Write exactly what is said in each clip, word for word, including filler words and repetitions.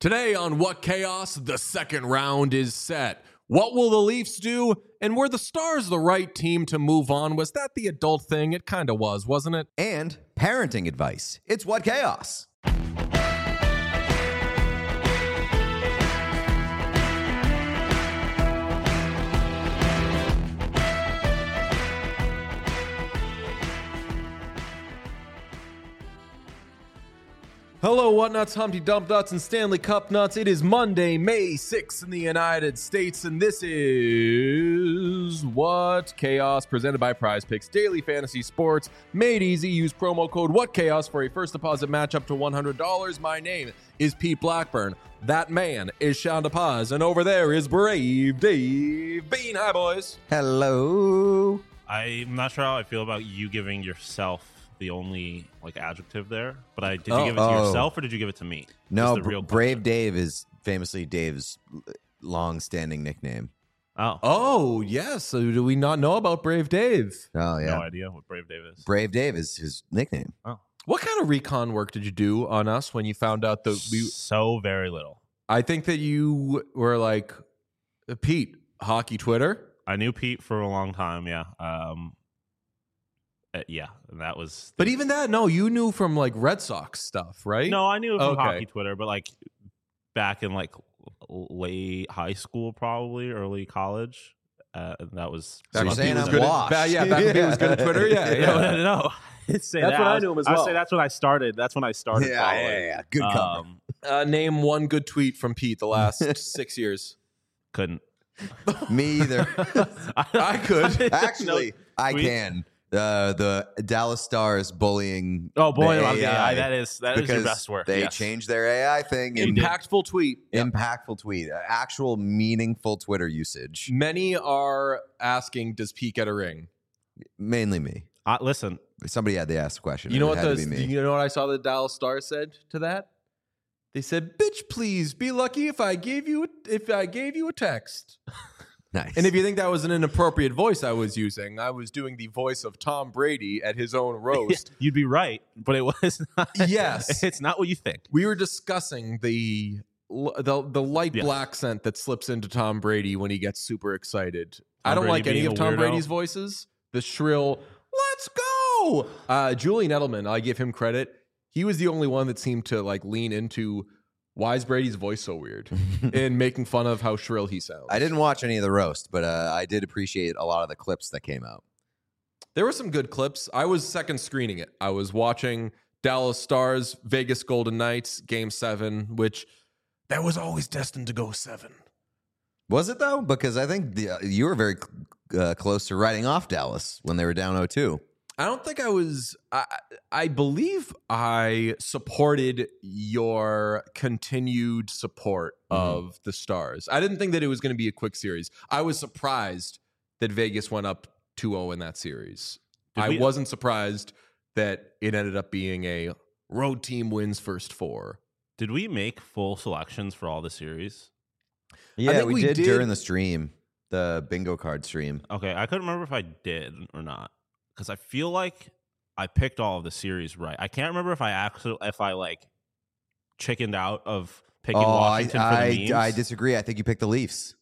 Today on What Chaos, the second round is set. What will the Leafs do? And were the Stars the right team to move on? Was that the adult thing? It kind of was, wasn't it? And parenting advice. It's What Chaos. Hello, What Nuts, Humpty Dump Nuts, and Stanley Cup Nuts. It is Monday, May sixth in the United States, and this is What Chaos, presented by Prize Picks Daily Fantasy Sports. Made easy. Use promo code What Chaos for a first deposit match up to one hundred dollars. My name is Pete Blackburn. That man is Sean DePaz, and over there is Brave Dave Bean. Hi, boys. Hello. I'm not sure how I feel about you giving yourself the only like adjective there, but I did Oh, you give it to oh. yourself or did you give it to me? No, That's the real Br- Brave question. Dave is famously Dave's long-standing nickname. Oh, Oh, yes. So do we not know about Brave Dave? Oh, yeah. no idea what Brave Dave is. Brave Dave is his nickname. Oh, What kind of recon work did you do on us when you found out that we... so very little. I think that you were like, Pete, hockey Twitter? I knew Pete for a long time. Yeah, um, uh, yeah, and that was. But even that, no, you knew from like Red Sox stuff, right? No, I knew it from Okay. hockey Twitter, but like back in like late high school, probably early college. Uh, and that was. So you're when saying Pete was I'm good at- washed. ba- yeah, back when Pete was good at Twitter. Yeah, yeah. No, no, no. I'd say That's that. when I was- knew him as I would well. say that's when I started. That's when I started. Yeah, following. yeah, yeah. Good cover. Um, Uh, name one good tweet from Pete the last six years. couldn't. Me either. I could. Actually, I tweet? can. Uh, the Dallas Stars bullying. Oh boy, the okay, A I I, that is that is because your best work. They yes. changed their A I thing. And Impactful tweet. impactful tweet. Uh, Actual meaningful Twitter usage. Many are asking, does Pete get a ring? Mainly me. Uh, listen, Somebody had to ask the question. You know It what had the to be me. you know what I saw the Dallas Stars said to that? They said, "Bitch, please be lucky if I gave you a, if I gave you a text." Nice. And if you think that was an inappropriate voice I was using, I was doing the voice of Tom Brady at his own roast. you'd be right, but it was not. Yes. it's not what you think. We were discussing the the the light Yes. black scent that slips into Tom Brady when he gets super excited. I Tom don't Brady like any being of a Tom weirdo. Brady's voices. The shrill, "Let's go!" Uh, Julian Edelman, I give him credit. He was the only one that seemed to like lean into why is Brady's voice so weird and making fun of how shrill he sounds. I didn't watch any of the roast, but uh, I did appreciate a lot of the clips that came out. There were some good clips. I was second screening it. I was watching Dallas Stars, Vegas Golden Knights, Game Seven, which that was always destined to go seven. Was it though? Because I think the, uh, you were very uh, close to writing off Dallas when they were down oh two. I don't think I was. I, I believe I supported your continued support of the Stars. I didn't think that it was going to be a quick series. I was surprised that Vegas went up two oh in that series. Did I we- wasn't surprised that it ended up being a road team wins first four. Did we make full selections for all the series? Yeah, think we, we did, did- during the stream, the bingo card stream. Okay, I couldn't remember if I did or not because I feel like I picked all of the series right. I can't remember if I actually if I like chickened out of picking oh, Washington I, for the I, memes. I disagree. I think you picked the Leafs.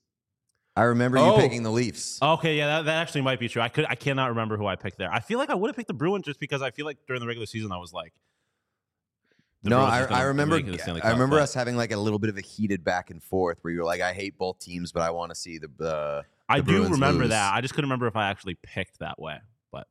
I remember you Oh. picking the Leafs. Okay, yeah, that, that actually might be true. I could, I cannot remember who I picked there. I feel like I would have picked the Bruins just because I feel like during the regular season I was like, the No, Bruins I, is gonna I remember. make it to the Stanley I Cup, remember but us having like a little bit of a heated back and forth where you were like, "I hate both teams, but I want to see the." Uh, I the do Bruins remember lose. that. I just couldn't remember if I actually picked that way. But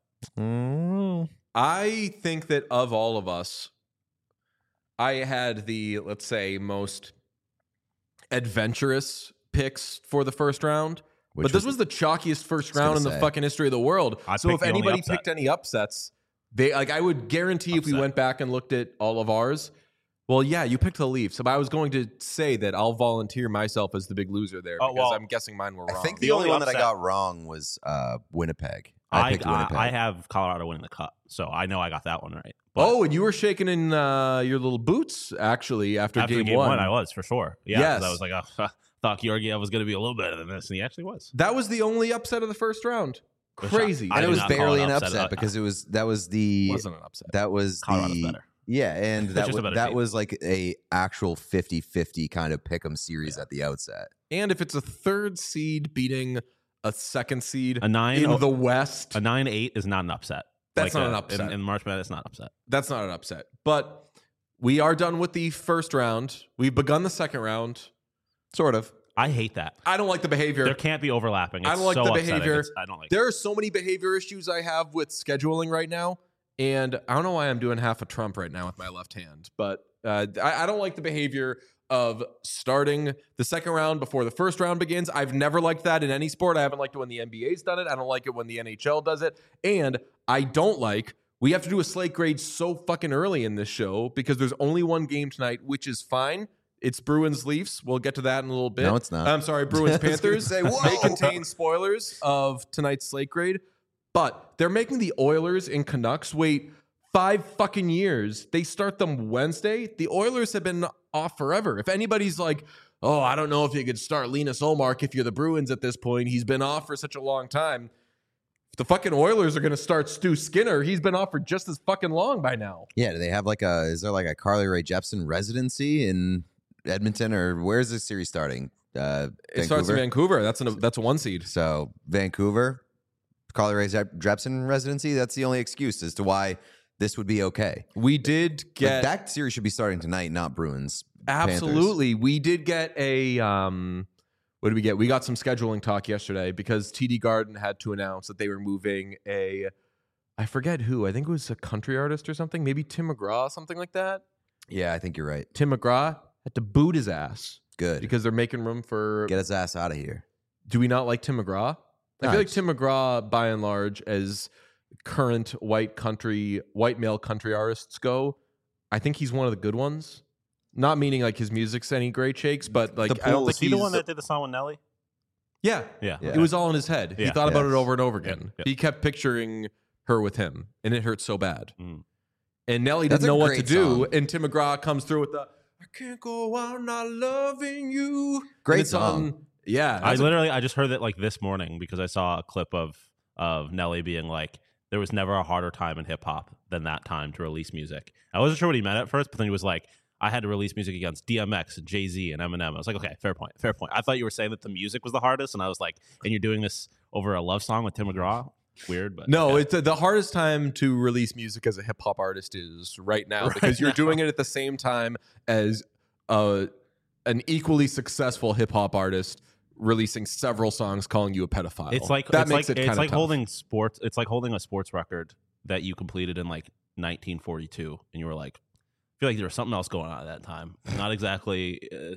I think that of all of us, I had the, let's say, most adventurous picks for the first round. Which but this was- was the chalkiest first gonna round in the say. fucking history of the world. I So picked if the only anybody upset. picked any upsets, they like I would guarantee if we Upset. went back and looked at all of ours. Well, yeah, you picked the Leafs. But I was going to say that I'll volunteer myself as the big loser there Oh, because well, I'm guessing mine were I wrong. think the, The only only one that I upset- got wrong was uh, Winnipeg. I, I, picked I, Winnipeg. I have Colorado winning the cup, so I know I got that one right. But Oh, and you were shaking in uh, your little boots actually after, after game, game, one. one. I was for sure. Yeah, 'cause Yes. I was like, oh, thought Georgiev was going to be a little better than this, and he actually was. That was the only upset of the first round. Which Crazy. I and it did was not call barely it an upset. upset Uh, because it was that was the It wasn't an upset. that was Colorado's the better. Yeah, and that just was, a better that team. was like a actual fifty-fifty kind of pick'em series Yeah. at the outset. And if it's a third seed beating a second seed A nine in oh- the West, A nine eight is not an upset. That's Like not a- an upset. In, in March Madness, it's not an upset. that's not an upset. But we are done with the first round. We've begun the second round. Sort of. I hate that. I don't like the behavior. There can't be overlapping. It's I don't like so the upsetting. behavior. It's- I don't like There are so many behavior issues I have with scheduling right now. And I don't know why I'm doing half a Trump right now with my left hand. But uh, I, I don't like the behavior of starting the second round before the first round begins. I've never liked that in any sport. I haven't liked it when the N B A's done it. I don't like it when the N H L does it. And I don't like, we have to do a slate grade so fucking early in this show because there's only one game tonight, which is fine. It's Bruins Leafs. We'll get to that in a little bit. No, it's not. I'm sorry, Bruins I was gonna Panthers. say, whoa. They contain spoilers of tonight's slate grade, but they're making the Oilers and Canucks wait five fucking years. They start them Wednesday. The Oilers have been off forever. If anybody's like, oh, I don't know if you could start Linus Ullmark if you're the Bruins at this point. He's been off for such a long time. If the fucking Oilers are going to start Stu Skinner, he's been off for just as fucking long by now. Yeah, do they have like a, is there like a Carly Rae Jepsen residency in Edmonton, or where's this series starting? Uh, It starts in Vancouver. That's an, that's a one seed. So Vancouver, Carly Rae Jepsen residency, that's the only excuse as to why this would be okay. We did But get that series should be starting tonight, not Bruins. Panthers. absolutely. We did get a um, what did we get? We got some scheduling talk yesterday because T D Garden had to announce that they were moving a, I forget who. I think it was a country artist or something. Maybe Tim McGraw, something like that. Yeah, I think you're right. Tim McGraw had to boot his ass Good. because they're making room for. Get his ass out of here. Do we not like Tim McGraw? I No, feel like it's- Tim McGraw, by and large, as current white country, white male country artists go, I think he's one of the good ones. Not meaning like his music's any great shakes, but like The I don't pool think Was he the he's- one that did the song with Nelly? Yeah, Yeah. Yeah. it was all in his head. He Yeah. thought about Yes. it over and over again. Yeah. He kept picturing her with him, and it hurt so bad. Mm. And Nelly That's didn't a know what to great do, song. and Tim McGraw comes through with the "I can't go on not loving you." Great And it's song. on- yeah, I that's a- literally I just heard that like this morning because I saw a clip of of Nelly being like, there was never a harder time in hip hop than that time to release music. I wasn't sure what he meant at first, but then he was like, I had to release music against D M X and Jay-Z and Eminem. I was like, okay, fair point, fair point. I thought you were saying that the music was the hardest, and I was like, and you're doing this over a love song with Tim McGraw? Weird, but No, okay. it's uh, the hardest time to release music as a hip hop artist is right now Right because you're now. doing it at the same time as uh, an equally successful hip hop artist releasing several songs calling you a pedophile. It's like that it's makes like it it's kind like of tough. holding sports. It's like holding a sports record that you completed in like nineteen forty-two, and you were like, I feel like there was something else going on at that time. Not exactly uh,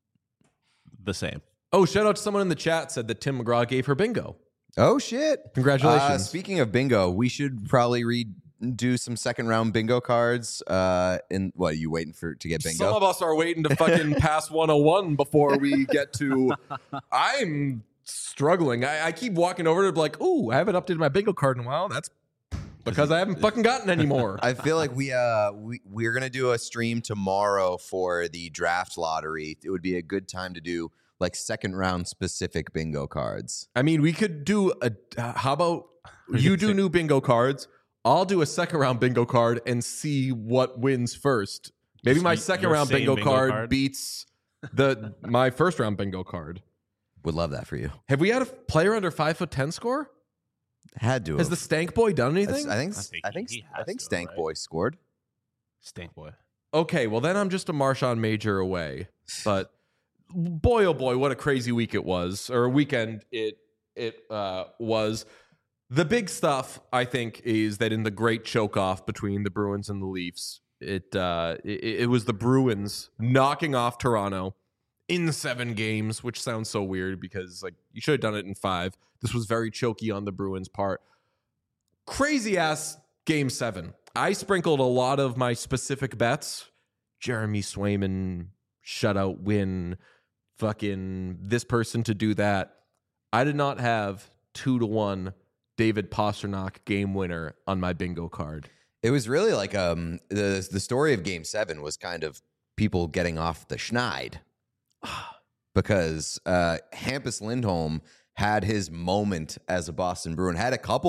the same. Oh, shout out to someone in the chat said that Tim McGraw gave her bingo. Oh, shit. Congratulations. Uh, speaking of bingo, we should probably redo some second round bingo cards. Uh, and what, are you waiting for to get bingo? Some of us are waiting to fucking pass one oh one before we get to. I'm struggling. I, I keep walking over to be like, ooh, I haven't updated my bingo card in a while. That's because I haven't fucking gotten any more. I feel like we uh we we're gonna do a stream tomorrow for the draft lottery. It would be a good time to do like second round specific bingo cards. I mean, we could do a. Uh, how about you do new bingo cards? I'll do a second round bingo card and see what wins first. Maybe Just my y- second your round same bingo, bingo card, card? beats the my first round bingo card. Would love that for you. Have we had a player under five foot ten score? Had to. Has have. the Stank Boy done That's- anything? I think I think I he- think he I has think to, Stank right? Boy scored. Stink boy. Okay, well then I'm just a Marshawn Major away. But boy, oh boy, what a crazy week it was, or weekend it it uh, was. The big stuff, I think, is that in the great choke-off between the Bruins and the Leafs, it, uh, it it was the Bruins knocking off Toronto in seven games, which sounds so weird because like you should have done it in five. This was very choky on the Bruins' part. Crazy ass game seven. I sprinkled a lot of my specific bets. Jeremy Swayman shutout win, fucking this person to do that. I did not have two to one David Pasternak game winner on my bingo card. It was really like um the the story of Game Seven was kind of people getting off the schneid because uh, Hampus Lindholm had his moment as a Boston Bruin, had a couple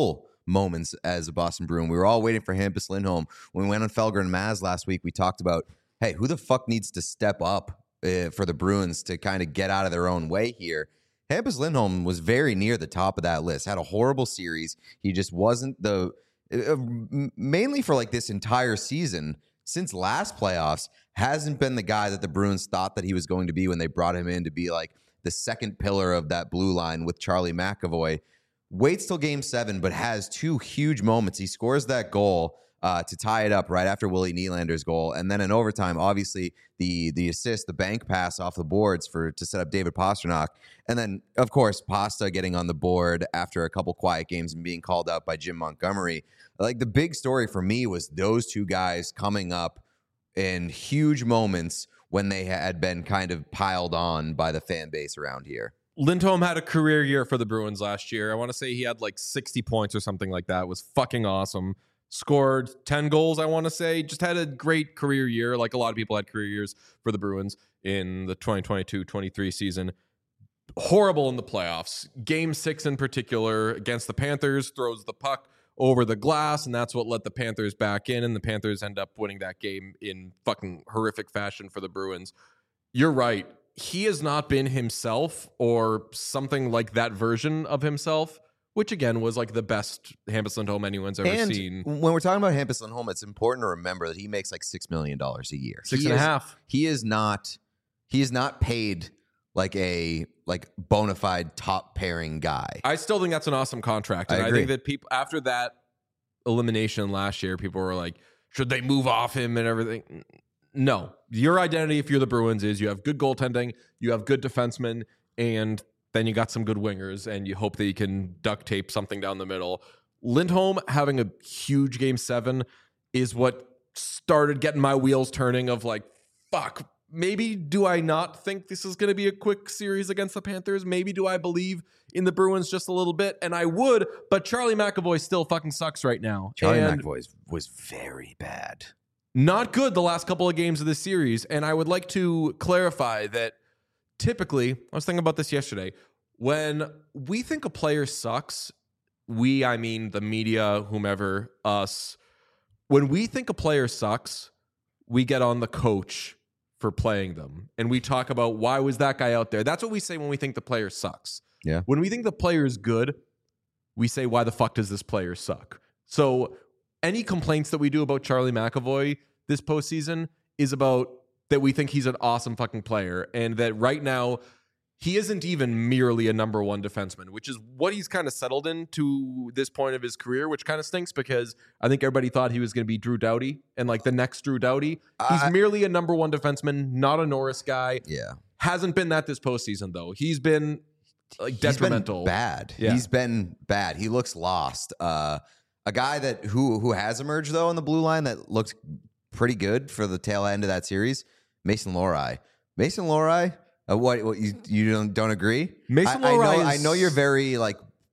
moments as a Boston Bruin. We were all waiting for Hampus Lindholm. When we went on Felger and Maz last week, we talked about, hey, who the fuck needs to step up uh, for the Bruins to kind of get out of their own way here? Hampus Lindholm was very near the top of that list. Had a horrible series. He just wasn't the uh, mainly for like this entire season since last playoffs hasn't been the guy that the Bruins thought that he was going to be when they brought him in to be like the second pillar of that blue line with Charlie McAvoy. Waits till game seven, but has two huge moments. He scores that goal uh, to tie it up right after Willie Nylander's goal. And then in overtime, obviously, the the assist, the bank pass off the boards for to set up David Pastrnak. And then, of course, Pasta getting on the board after a couple quiet games and being called out by Jim Montgomery. Like, the big story for me was those two guys coming up in huge moments when they had been kind of piled on by the fan base around here. Lindholm had a career year for the Bruins last year. I want to say he had like sixty points or something like that. It was fucking awesome. Scored ten goals, I want to say. Just had a great career year. Like a lot of people had career years for the Bruins in the twenty twenty-two twenty-three season. Horrible in the playoffs. Game six in particular against the Panthers, throws the puck over the glass, and that's what let the Panthers back in, and the Panthers end up winning that game in fucking horrific fashion for the Bruins. You're right. He has not been himself or something like that version of himself, which again was like the best Hampus Lindholm anyone's ever and seen. When we're talking about Hampus Lindholm, it's important to remember that he makes like six million dollars a year. Six he and is, a half. He is not. He is not paid like a like bona fide top pairing guy. I still think that's an awesome contract, and I I, agree. think that people after that elimination last year, people were like, should they move off him and everything? No, your identity, if you're the Bruins, is you have good goaltending, you have good defensemen, and then you got some good wingers, and you hope that you can duct tape something down the middle. Lindholm having a huge game seven is what started getting my wheels turning of like, fuck, maybe do I not think this is going to be a quick series against the Panthers? Maybe do I believe in the Bruins just a little bit? And I would, but Charlie McAvoy still fucking sucks right now. Charlie and McAvoy was very bad. Not good the last couple of games of this series. And I would like to clarify that typically, I was thinking about this yesterday, when we think a player sucks, we, I mean the media, whomever, us, when we think a player sucks, we get on the coach for playing them. And we talk about why was that guy out there? That's what we say when we think the player sucks. Yeah. When we think the player is good, we say, why the fuck does this player suck? So any complaints that we do about Charlie McAvoy this postseason is about that we think he's an awesome fucking player, and that right now he isn't even merely a number one defenseman, which is what he's kind of settled in to this point of his career, which kind of stinks because I think everybody thought he was going to be Drew Doughty and like the next Drew Doughty. He's I, merely a number one defenseman, not a Norris guy. Yeah. Hasn't been that this postseason, though. He's been like detrimental. He's been bad. Yeah. He's been bad. He looks lost. Uh, a guy that who who has emerged though on the blue line that looks pretty good for the tail end of that series, Mason Lohrei. Mason Lohrei. Uh, what, what you you don't don't agree? Mason I, I Lohrei know is, I know you're very like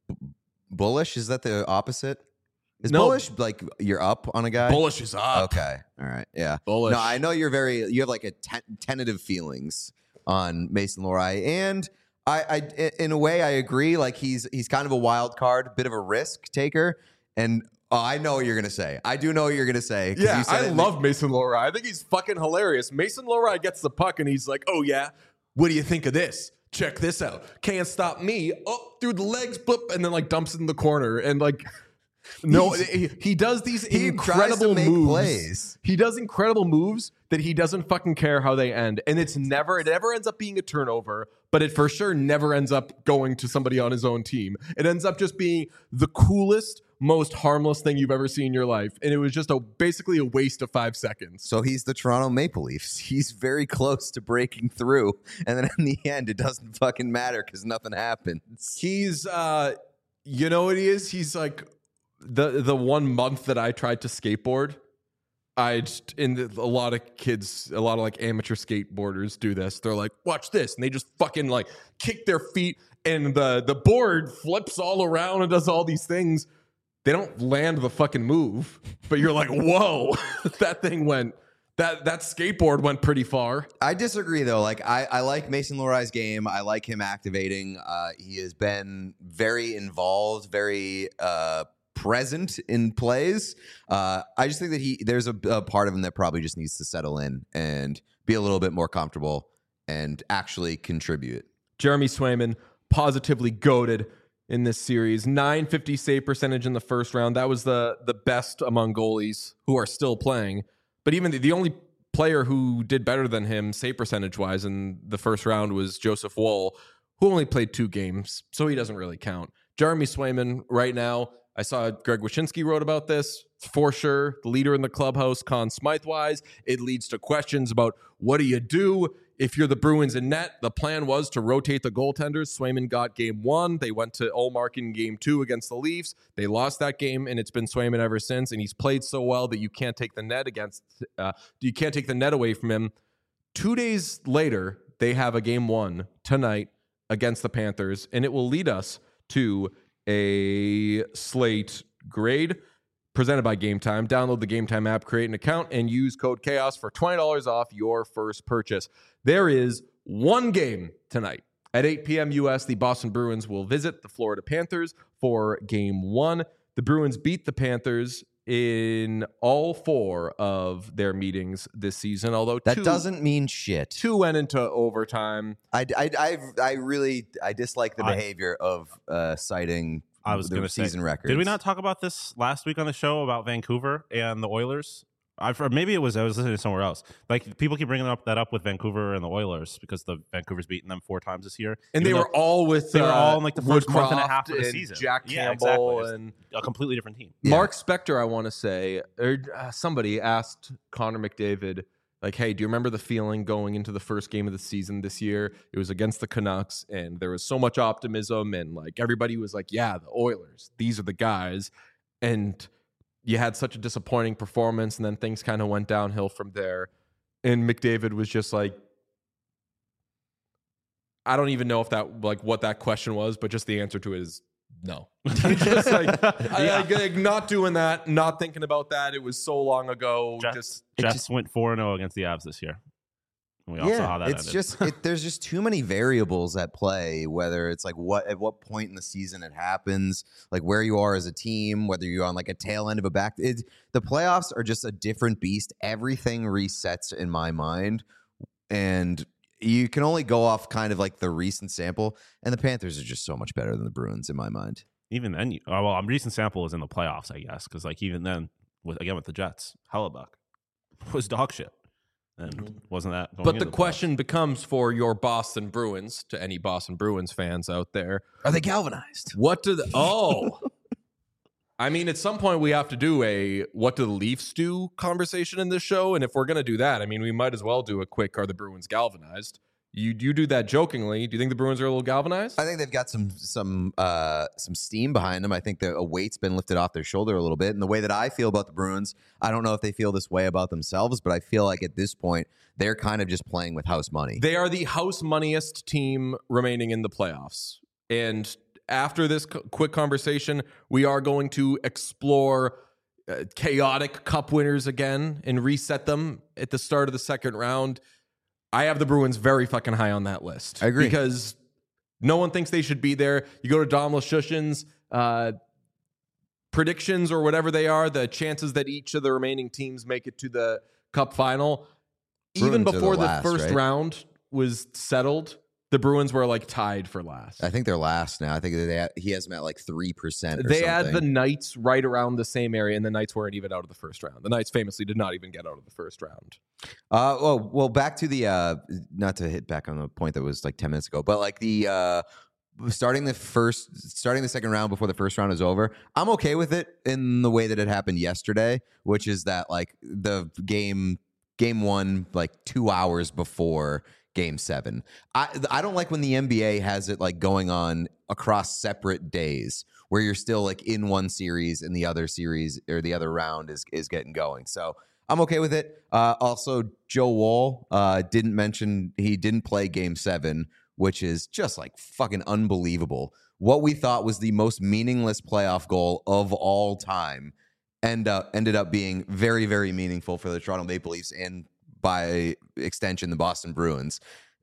bullish. Is that the opposite? Is No. bullish like you're up on a guy? bullish is up. Okay. All right. Yeah. Bullish. No, I know you're very. You have like a ten- tentative feelings on Mason Lohrei, and I, I, in a way, I agree. Like he's he's kind of a wild card, bit of a risk taker, and oh, I know what you're gonna say. I do know what you're gonna say. 'Cause Yeah, you said I it in love Mason Lohrei. I think he's fucking hilarious. Mason Lohrei gets the puck and he's like, oh yeah, what do you think of this? Check this out. Can't stop me. Up through the legs, boop, and then like dumps it in the corner. And like, no, he, he does these he incredible tries to make moves. plays. He does incredible moves that he doesn't fucking care how they end. And it's never, it never ends up being a turnover, but it for sure never ends up going to somebody on his own team. It ends up just being the coolest, most harmless thing you've ever seen in your life. And it was just a basically a waste of five seconds. So he's the Toronto Maple Leafs. He's very close to breaking through, and then in the end, it doesn't fucking matter because nothing happens. He's, uh, you know what he is? He's like the the one month that I tried to skateboard. I just, in the, a lot of kids, a lot of like amateur skateboarders do this. They're like, watch this, and they just fucking like kick their feet, and the the board flips all around and does all these things. They don't land the fucking move, but you're like, whoa, that thing went. That that skateboard went pretty far. I disagree, though. Like, I, I like Mason Lohrei's game. I like him activating. Uh, he has been very involved, very uh, present in plays. Uh, I just think that he there's a, a part of him that probably just needs to settle in and be a little bit more comfortable and actually contribute. Jeremy Swayman, positively goated in this series. nine fifty save percentage in the first round. That was the the best among goalies who are still playing. But even the, the only player who did better than him save percentage wise in the first round was Joseph Woll, who only played two games, so he doesn't really count. Jeremy Swayman right now, I saw Greg Wyshynski wrote about this, for sure, the leader in the clubhouse, Conn Smythe-wise. It leads to questions about what do you do if you're the Bruins in net. The plan was to rotate the goaltenders. Swayman got game one. They went to Ullmark in game two against the Leafs. They lost that game, and it's been Swayman ever since, and he's played so well that you can't take the net against, uh, you can't take the net away from him. Two days later, they have a game one tonight against the Panthers, and it will lead us to a slate grade presented by Game Time. Download the Game Time app, create an account, and use code CHAOS for twenty dollars off your first purchase. There is one game tonight. At eight p.m. U S, the Boston Bruins will visit the Florida Panthers for Game one. The Bruins beat the Panthers in all four of their meetings this season, although that two, doesn't mean shit. Two went into overtime. I, I, I, I really I dislike the I, behavior of uh, citing I was the gonna season say, records. Did we not talk about this last week on the show about Vancouver and the Oilers? I've, or maybe it was I was listening to somewhere else. Like people keep bringing up that up with Vancouver and the Oilers because the Vancouver's beaten them four times this year, and they were all with they uh, were all in like the first month and a Woodcroft half of the and season. Jack yeah, Campbell exactly. and a completely different team. Yeah. Mark Spector, I want to say, or uh, somebody asked Connor McDavid, like, hey, do you remember the feeling going into the first game of the season this year? It was against the Canucks, and there was so much optimism, and like everybody was like, yeah, the Oilers, these are the guys. And you had such a disappointing performance, and then things kind of went downhill from there. And McDavid was just like, I don't even know if that, like, what that question was, but just the answer to it is no. Just like, I, I, like, not doing that, not thinking about that. It was so long ago. Jets, just Jets just, went four and zero against the Avs this year. We all yeah, saw how that it's ended. just it, there's just too many variables at play. Whether it's like what at what point in the season it happens, like where you are as a team, whether you're on like a tail end of a back. It, the playoffs are just a different beast. Everything resets in my mind, and you can only go off kind of like the recent sample. And the Panthers are just so much better than the Bruins in my mind. Even then, you, oh, well, I'm recent sample is in the playoffs, I guess, because like even then, with again with the Jets, Hellebuck was dog shit. And wasn't that going But into the the question becomes for your Boston Bruins, to any Boston Bruins fans out there, Are they galvanized? what do the oh I mean, at some point we have to do a what do the Leafs do conversation in this show, and if we're gonna do that, I mean, we might as well do a quick are the Bruins galvanized. You you do that jokingly. Do you think the Bruins are a little galvanized? I think they've got some some uh, some steam behind them. I think the a weight's been lifted off their shoulder a little bit. And the way that I feel about the Bruins, I don't know if they feel this way about themselves, but I feel like at this point they're kind of just playing with house money. They are the house moneyest team remaining in the playoffs. And after this c- quick conversation, we are going to explore uh, chaotic cup winners again and reset them at the start of the second round. I have the Bruins very fucking high on that list. I agree. Because no one thinks they should be there. You go to Dom Luszczyszyn's uh, predictions or whatever they are, the chances that each of the remaining teams make it to the cup final, Bruins even are the before the, last, first right? round was settled, the Bruins were like tied for last. I think they're last now. I think they he has them at like three percent. They had the Knights right around the same area, and the Knights weren't even out of the first round. The Knights famously did not even get out of the first round. Uh, well, well, back to the uh, not to hit back on the point that was like ten minutes ago, but like the uh, starting the first, starting the second round before the first round is over. I'm okay with it in the way that it happened yesterday, which is that like the game, game one, like two hours before Game seven. I I don't like when the N B A has it like going on across separate days where you're still like in one series and the other series or the other round is is getting going. So I'm okay with it. Uh, also, Joe Woll uh, didn't mention he didn't play Game seven, which is just like fucking unbelievable. What we thought was the most meaningless playoff goal of all time end up, ended up being very, very meaningful for the Toronto Maple Leafs and by extension, the Boston Bruins.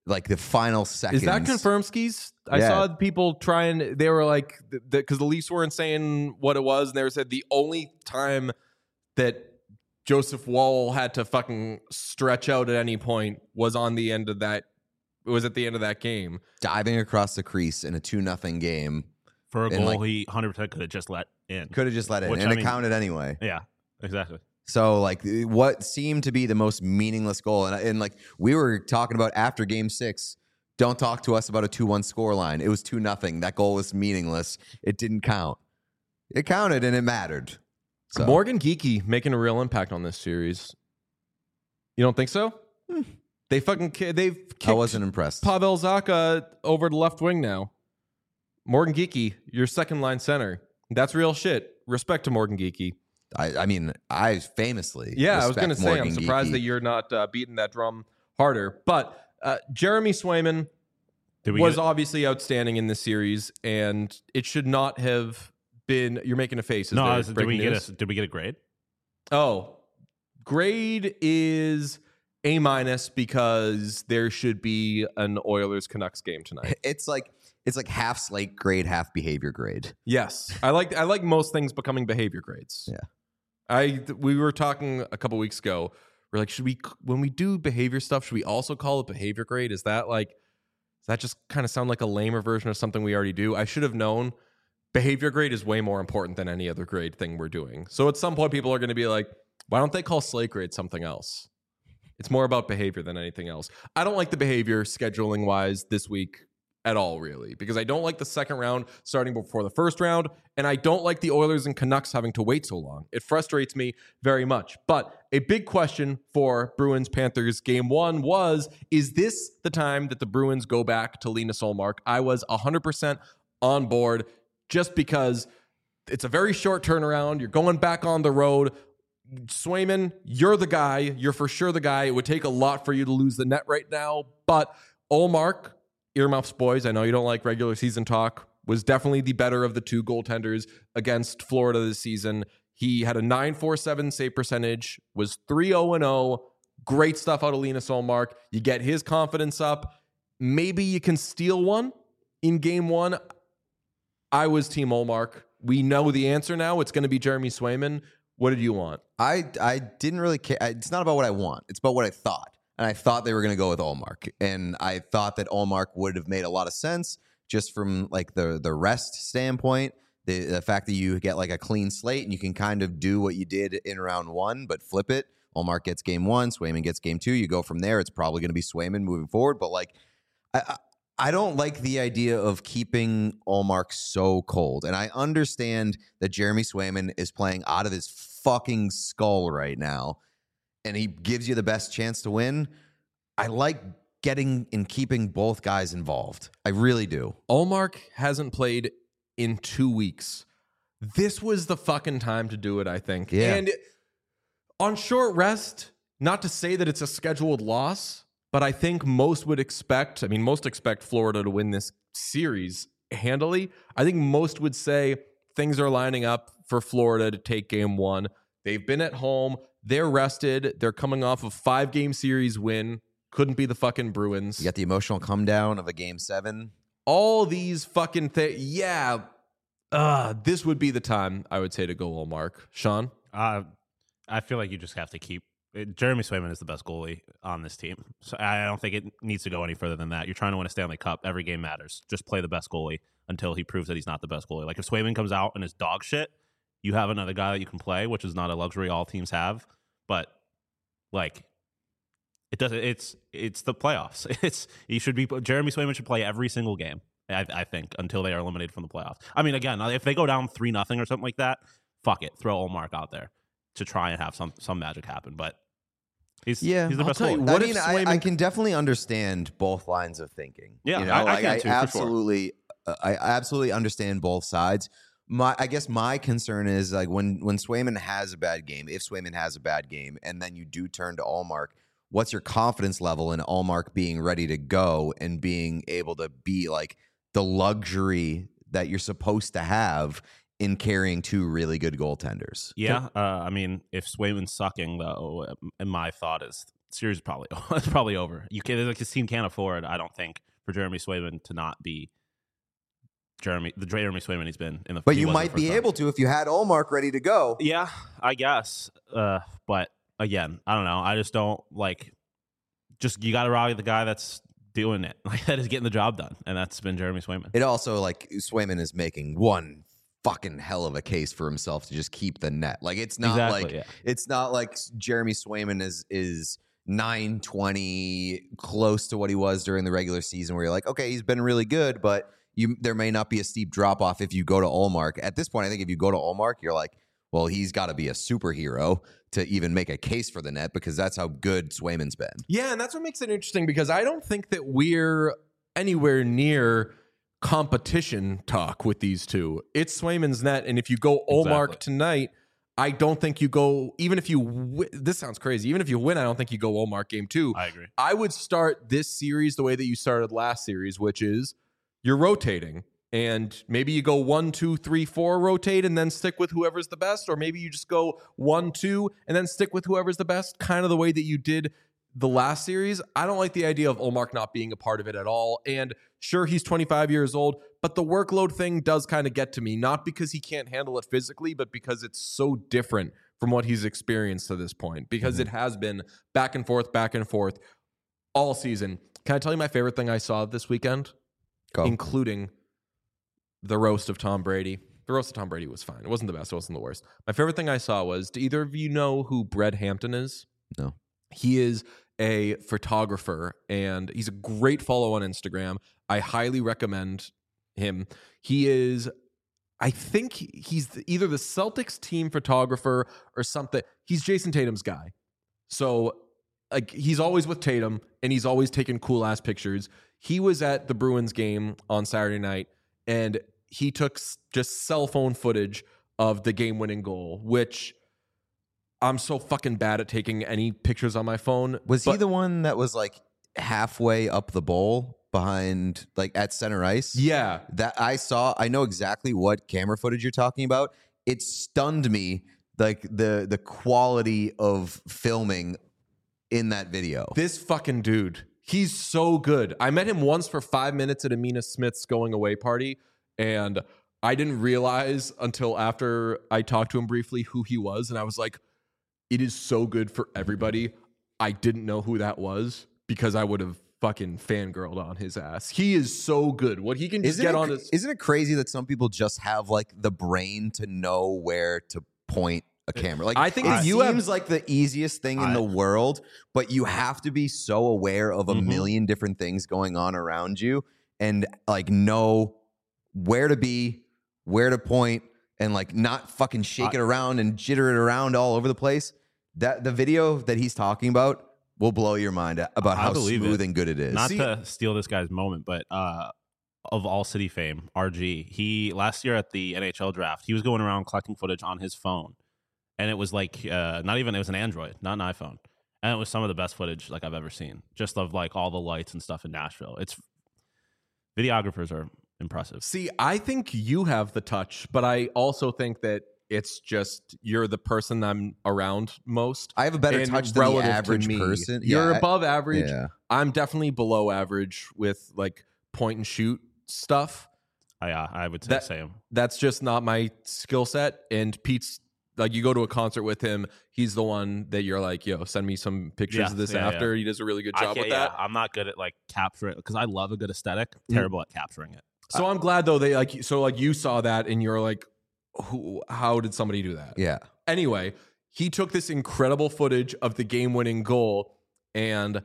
like the final seconds. Is that confirmed, Skis? I Yeah. saw people trying. They were like, because the, the Leafs weren't saying what it was, and they were said the only time that Joseph Woll had to fucking stretch out at any point was on the end of that. It was at the end of that game, diving across the crease in a two nothing game For a And, goal like- he one hundred percent could have just let in. could have just let it, Which, and I it mean- counted anyway. Yeah, exactly. So like what seemed to be the most meaningless goal, and, and like we were talking about after Game Six. Don't talk to us about a two one score line. It was two nothing. That goal was meaningless. It didn't count. It counted and it mattered. So Morgan Geekie making a real impact on this series. You don't think so? Hmm. They fucking ki- they've kicked I wasn't impressed. Pavel Zacha over to left wing now. Morgan Geekie, your second line center. That's real shit. Respect to Morgan Geekie. I, I mean, I famously Yeah, I was respect going to say, I'm Morgan surprised Geekie. that you're not uh, beating that drum harder. But uh, Jeremy Swayman Did we was get, obviously outstanding in this series, and it should not have been. You're making a face. Is no? there I was, did breaking we get news? a did we get a grade? Oh, grade is A minus because there should be an Oilers Canucks game tonight. It's like it's like half slate grade, half behavior grade. Yes, I like I like most things becoming behavior grades. Yeah. I we were talking a couple weeks ago. We're like, should we when we do behavior stuff, should we also call it behavior grade? Is that like does that just kind of sound like a lamer version of something we already do? I should have known. Behavior grade is way more important than any other grade thing we're doing. So at some point, people are going to be like, why don't they call slate grade something else? It's more about behavior than anything else. I don't like the behavior scheduling wise this week at all, really, because I don't like the second round starting before the first round, and I don't like the Oilers and Canucks having to wait so long. It frustrates me very much. But a big question for Bruins Panthers game one was, is this the time that the Bruins go back to Linus Ullmark? I was one hundred percent on board just because it's a very short turnaround. You're going back on the road. Swayman, you're the guy. You're for sure the guy. It would take a lot for you to lose the net right now. But Ullmark, earmuffs, boys, I know you don't like regular season talk, was definitely the better of the two goaltenders against Florida this season. He had a nine forty-seven save percentage, was three oh and oh. Great stuff out of Linus Ullmark. You get his confidence up. Maybe you can steal one in game one. I was Team Ullmark. We know the answer now. It's going to be Jeremy Swayman. What did you want? I I didn't really care. It's not about what I want. It's about what I thought. And I thought they were going to go with Ullmark. And I thought that Ullmark would have made a lot of sense just from like the the rest standpoint. The, the fact that you get like a clean slate and you can kind of do what you did in round one, but flip it. Ullmark gets game one, Swayman gets game two. You go from there. It's probably going to be Swayman moving forward. But like, I, I I don't like the idea of keeping Ullmark so cold. And I understand that Jeremy Swayman is playing out of his fucking skull right now, and he gives you the best chance to win. I like getting and keeping both guys involved. I really do. Ullmark hasn't played in two weeks. This was the fucking time to do it, I think. Yeah. And on short rest, not to say that it's a scheduled loss, but I think most would expect, I mean, most expect Florida to win this series handily. I think most would say things are lining up for Florida to take game one. They've been at home. They're rested. They're coming off a five-game series win. Couldn't be the fucking Bruins. You got the emotional come down of a game seven. All these fucking things. Yeah. Uh, this would be the time, I would say, to go Ullmark. Sean? Uh, I feel like you just have to keep. It, Jeremy Swayman is the best goalie on this team. So I don't think it needs to go any further than that. You're trying to win a Stanley Cup. Every game matters. Just play the best goalie until he proves that he's not the best goalie. Like if Swayman comes out and is dog shit, you have another guy that you can play, which is not a luxury all teams have. But like, it doesn't. It's it's the playoffs. It's you should be. Jeremy Swayman should play every single game. I, I think until they are eliminated from the playoffs. I mean, again, if they go down three nothing or something like that, fuck it, throw Ullmark out there to try and have some some magic happen. But he's Yeah, he's the I'll best tell you goalie. what I if mean, I, Swayman- I can definitely understand both lines of thinking. Yeah, you know, I- I like, can too, for sure. absolutely, uh, I absolutely understand both sides. My, I guess my concern is like when when Swayman has a bad game, if Swayman has a bad game, and then you do turn to Ullmark, what's your confidence level in Ullmark being ready to go and being able to be like the luxury that you're supposed to have in carrying two really good goaltenders? Yeah, uh, I mean, if Swayman's sucking though, and my thought is series is probably it's probably over. You can like this team can't afford, I don't think, for Jeremy Swayman to not be Jeremy the Jeremy Swayman he's been in the. But you might be able to if you had Ullmark ready to go. Yeah, I guess. Uh, but again, I don't know. I just don't like. Just you got to rally the guy that's doing it, like that is getting the job done, and that's been Jeremy Swayman. It also like Swayman is making one fucking hell of a case for himself to just keep the net. Like it's not Exactly, like yeah. it's not like Jeremy Swayman is is nine twenty close to what he was during the regular season, where you're like, okay, he's been really good, but you there may not be a steep drop off if you go to Ullmark. At this point, I think if you go to Ullmark, you're like, well, he's got to be a superhero to even make a case for the net because that's how good Swayman's been. Yeah, and that's what makes it interesting because I don't think that we're anywhere near competition talk with these two. It's Swayman's net, and if you go Ullmark Exactly. tonight, I don't think you go, even if you, w- this sounds crazy, even if you win, I don't think you go Ullmark game two. I agree. I would start this series the way that you started last series, which is you're rotating. And maybe you go one, two, three, four, rotate, and then stick with whoever's the best. Or maybe you just go one, two, and then stick with whoever's the best, kind of the way that you did the last series. I don't like the idea of Ullmark not being a part of it at all. And sure, he's twenty-five years old, but the workload thing does kind of get to me, not because he can't handle it physically, but because it's so different from what he's experienced to this point, because mm-hmm. it has been back and forth, back and forth all season. Can I tell you my favorite thing I saw this weekend? Go. Including the roast of Tom Brady. The roast of Tom Brady was fine. It wasn't the best. It wasn't the worst. My favorite thing I saw was, do either of you know who Brett Hampton is? No. He is a photographer, and he's a great follow on Instagram. I highly recommend him. He is, I think he's either the Celtics team photographer or something. He's Jason Tatum's guy. So like he's always with Tatum, and he's always taking cool-ass pictures. He was at the Bruins game on Saturday night, and he took just cell phone footage of the game-winning goal, which I'm so fucking bad at taking any pictures on my phone. Was but, he the one that was like halfway up the bowl behind, like at center ice? Yeah. That I saw. I know exactly what camera footage you're talking about. It stunned me, like the the quality of filming in that video. This fucking dude, he's so good. I met him once for five minutes at Amina Smith's going away party, and I didn't realize until after I talked to him briefly who he was, and I was like, it is so good for everybody. I didn't know who that was because I would have fucking fangirled on his ass. He is so good. What he can just isn't get it, on his... Isn't it crazy that some people just have like the brain to know where to point a camera? Like I think it that you seems have, like the easiest thing in I, the world, but you have to be so aware of a mm-hmm. million different things going on around you and like know where to be, where to point, and like not fucking shake I, it around and jitter it around all over the place. That the video that he's talking about will blow your mind about how smooth it. and good it is. Not See, to steal this guy's moment, but uh, of All City fame, R G, he last year at the N H L draft, he was going around collecting footage on his phone, and it was like uh, not even it was an Android, not an iPhone, and it was some of the best footage like I've ever seen, just of like all the lights and stuff in Nashville. It's videographers are impressive. See, I think you have the touch, but I also think that it's just you're the person I'm around most. I have a better and touch than the relative to average me. person. You're Yeah, I- above average. Yeah. I'm definitely below average with like point and shoot stuff. I, uh, I would say That- the same. That's just not my skill set. And Pete's like, you go to a concert with him, he's the one that you're like, yo, send me some pictures Yeah, of this yeah, after. yeah. He does a really good I job can't- with that. yeah, I'm not good at like capturing because I love a good aesthetic. Mm. Terrible at capturing it. So I'm glad though they like so like you saw that and you're like, who? How did somebody do that? Yeah. Anyway, he took this incredible footage of the game-winning goal, and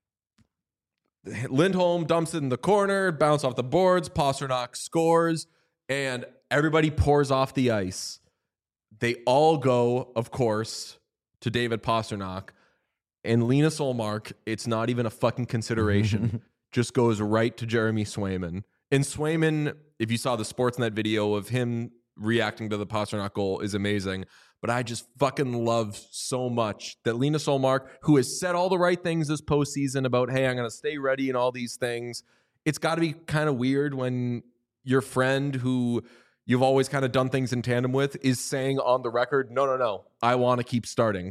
Lindholm dumps it in the corner, bounce off the boards, Pasternak scores, and everybody pours off the ice. They all go, of course, to David Pasternak, and Linus Ullmark, it's not even a fucking consideration, just goes right to Jeremy Swayman. And Swayman, if you saw the Sportsnet video of him reacting to the Pasternak goal, is amazing. But I just fucking love so much that Linus Ullmark, who has said all the right things this postseason about, hey, I'm going to stay ready and all these things. It's got to be kind of weird when your friend who you've always kind of done things in tandem with is saying on the record, no, no, no, I want to keep starting.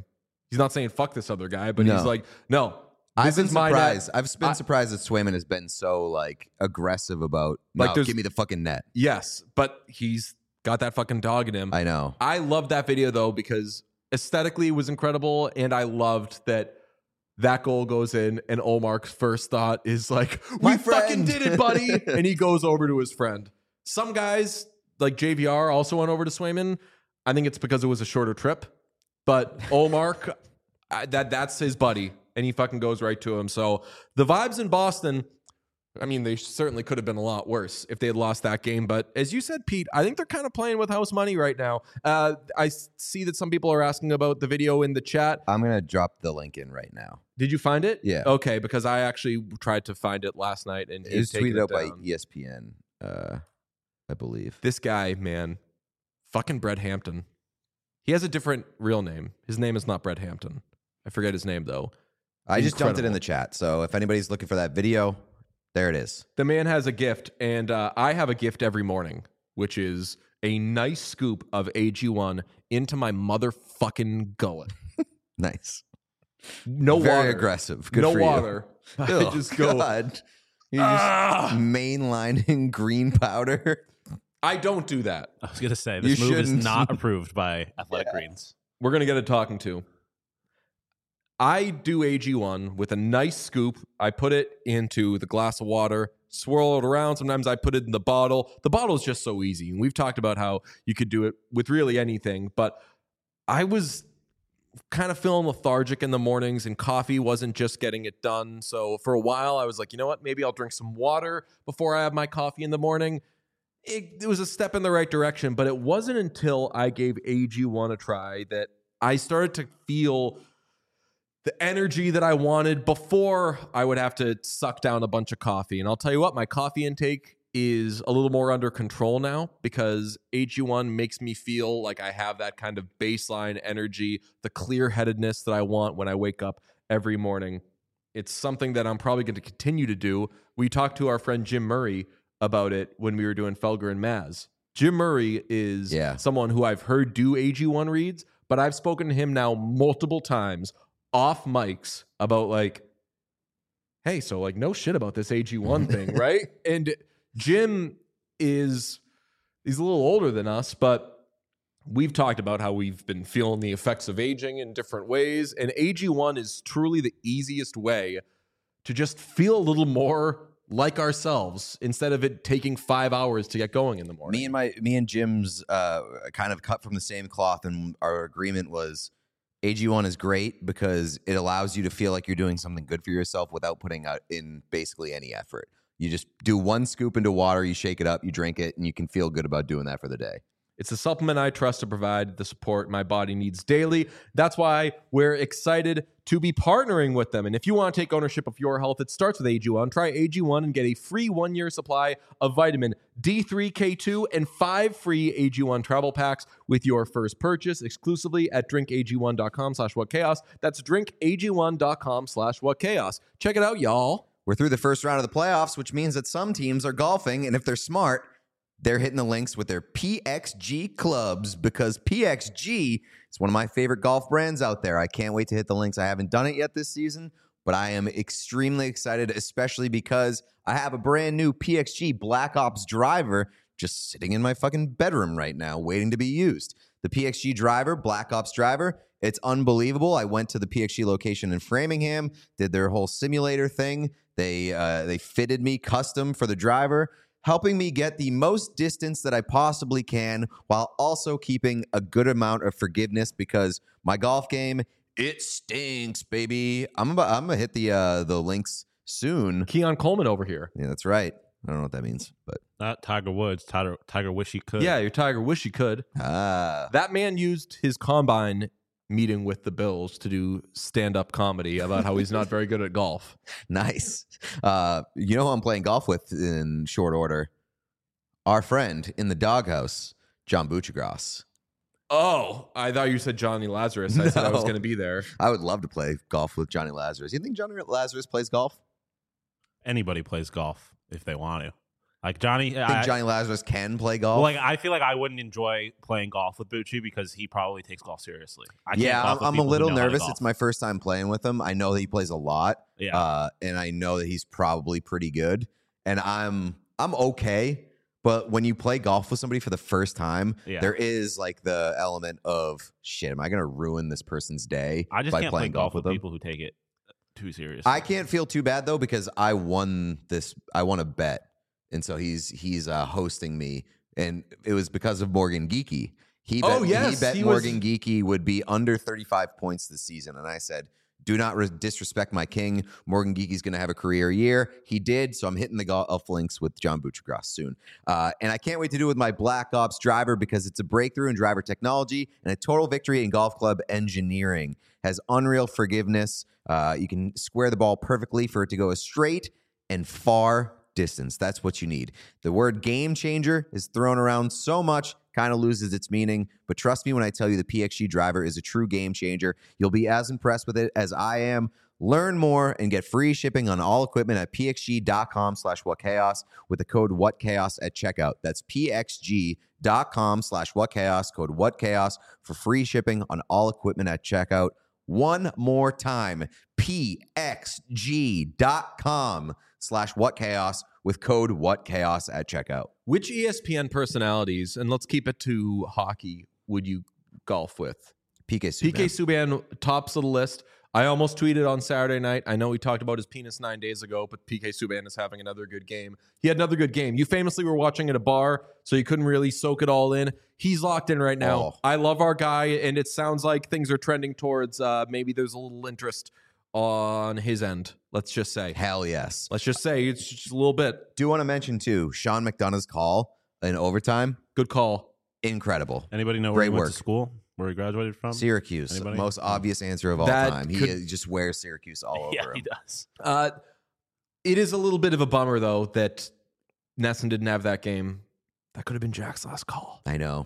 He's not saying fuck this other guy, but No. he's like, no, I've this been is my net. surprised. I've been I- surprised that Swayman has been so like aggressive about Like, no, there's- give me the fucking net. Yes, but he's got that fucking dog in him. I know. I love that video though because aesthetically it was incredible, and I loved that that goal goes in, and Olmark's first thought is like, "We My fucking friend." did it, buddy!" And he goes over to his friend. Some guys like J V R also went over to Swayman. I think it's because it was a shorter trip, but Olmark, I, that that's his buddy, and he fucking goes right to him. So the vibes in Boston. I mean, they certainly could have been a lot worse if they had lost that game. But as you said, Pete, I think they're kind of playing with house money right now. Uh, I s- see that some people are asking about the video in the chat. I'm gonna drop the link in right now. Did you find it? Yeah. Okay, because I actually tried to find it last night and It was he'd taken tweeted out by down. E S P N, uh, I believe. This guy, man, fucking Brett Hampton. He has a different real name. His name is not Brett Hampton. I forget his name though. I just dumped it in Incredible. the chat. So if anybody's looking for that video, there it is. The man has a gift, and uh, I have a gift every morning, which is a nice scoop of A G one into my motherfucking gullet. Nice. No Very water. aggressive. Good no for you. water. I Oh, just go. God. You're just "Ah!" mainlining green powder. I don't do that. I was gonna say You this move is shouldn't. not approved by Athletic Yeah. Greens. We're gonna get a talking to. I do A G one with a nice scoop. I put it into the glass of water, swirl it around. Sometimes I put it in the bottle. The bottle is just so easy. And we've talked about how you could do it with really anything. But I was kind of feeling lethargic in the mornings, and coffee wasn't just getting it done. So for a while, I was like, you know what? Maybe I'll drink some water before I have my coffee in the morning. It, it was a step in the right direction, but it wasn't until I gave A G one a try that I started to feel the energy that I wanted before I would have to suck down a bunch of coffee. And I'll tell you what, my coffee intake is a little more under control now because A G one makes me feel like I have that kind of baseline energy, the clear-headedness that I want when I wake up every morning. It's something that I'm probably going to continue to do. We talked to our friend Jim Murray about it when we were doing Felger and Maz. Jim Murray is Yeah. someone who I've heard do A G one reads, but I've spoken to him now multiple times off mics about like, hey, so like no shit about this A G one thing, right? And Jim is, he's a little older than us, but we've talked about how we've been feeling the effects of aging in different ways. And A G one is truly the easiest way to just feel a little more like ourselves instead of it taking five hours to get going in the morning. Me and my me and Jim's uh, kind of cut from the same cloth, and our agreement was A G one is great because it allows you to feel like you're doing something good for yourself without putting out in basically any effort. You just do one scoop into water, you shake it up, you drink it, and you can feel good about doing that for the day. It's a supplement I trust to provide the support my body needs daily. That's why we're excited to be partnering with them. And if you want to take ownership of your health, it starts with A G one. Try A G one and get a free one-year supply of vitamin D three, K two, and five free A G one travel packs with your first purchase exclusively at drinkag1.com slash whatchaos. That's drinkag1.com slash whatchaos. Check it out, y'all. We're through the first round of the playoffs, which means that some teams are golfing, and if they're smart, they're hitting the links with their P X G clubs because P X G is one of my favorite golf brands out there. I can't wait to hit the links. I haven't done it yet this season, but I am extremely excited, especially because I have a brand new P X G Black Ops driver just sitting in my fucking bedroom right now, waiting to be used. The P X G driver, Black Ops driver, it's unbelievable. I went to the P X G location in Framingham, did their whole simulator thing. They uh, they fitted me custom for the driver, helping me get the most distance that I possibly can while also keeping a good amount of forgiveness because my golf game, it stinks, baby. I'm about, I'm gonna hit the uh, the links soon. Keon Coleman over here. Yeah, that's right. I don't know what that means, but Not Tiger Woods. Tiger, Tiger wish he could. Yeah, your Tiger wish he could. ah, That man used his combine meeting with the Bills to do stand-up comedy about how he's not very good at golf. nice. Uh, you know who I'm playing golf with in short order? Our friend in the doghouse, John Buccigross. Oh, I thought you said Johnny Lazarus. I said I was No. going to be there. I would love to play golf with Johnny Lazarus. You think Johnny Lazarus plays golf? Anybody plays golf if they want to. Like Johnny, I think I, Johnny Lazarus can play golf. like I feel like I wouldn't enjoy playing golf with Bucci because he probably takes golf seriously. I can't yeah, golf I'm, with I'm a people who little know how to nervous. golf. It's my first time playing with him. I know that he plays a lot, Yeah. uh, and I know that he's probably pretty good. And I'm I'm okay. But when you play golf with somebody for the first time, Yeah. there is like the element of shit. Am I going to ruin this person's day I just by can't play playing golf with them? people who take it too seriously. I can't feel too bad though because I won this. I won a bet, and so he's he's uh, hosting me, and it was because of Morgan Geeky. He bet, Oh, yes, he bet he was- Morgan Geeky would be under thirty-five points this season, and I said, "Do not re- disrespect my king. Morgan Geeky's going to have a career year." He did, so I'm hitting the golf links with John Buccigross soon, uh, and I can't wait to do it with my Black Ops driver because it's a breakthrough in driver technology and a total victory in golf club engineering. Has unreal forgiveness. Uh, you can square the ball perfectly for it to go a straight and far distance. That's what you need. The word game changer is thrown around so much, kind of loses its meaning. But trust me when I tell you the P X G driver is a true game changer. You'll be as impressed with it as I am. Learn more and get free shipping on all equipment at pxg.com slash whatchaos with the code whatchaos at checkout. That's pxg.com slash whatchaos, code whatchaos for free shipping on all equipment at checkout. One more time, pxg.com slash whatchaos with code whatchaos at checkout. Which E S P N personalities, and let's keep it to hockey, would you golf with? P K Subban. P K Subban tops of the list. I almost tweeted on Saturday night. I know we talked about his penis nine days ago, but P K Subban is having another good game. He had another good game. You famously were watching at a bar, so you couldn't really soak it all in. He's locked in right now. Oh. I love our guy, and it sounds like things are trending towards uh, maybe there's a little interest on his end. Let's just say. Hell yes. Let's just say it's just a little bit. Do want to mention, too, Sean McDonough's call in overtime. Good call. Incredible. Anybody know where Great he went work. to school? Where he graduated from? Syracuse. Anybody? Most obvious answer of all That time. He could- uh, just wears Syracuse all over Yeah, him. he does. Uh, it is a little bit of a bummer, though, that Nesson didn't have that game. That could have been Jack's last call. I know.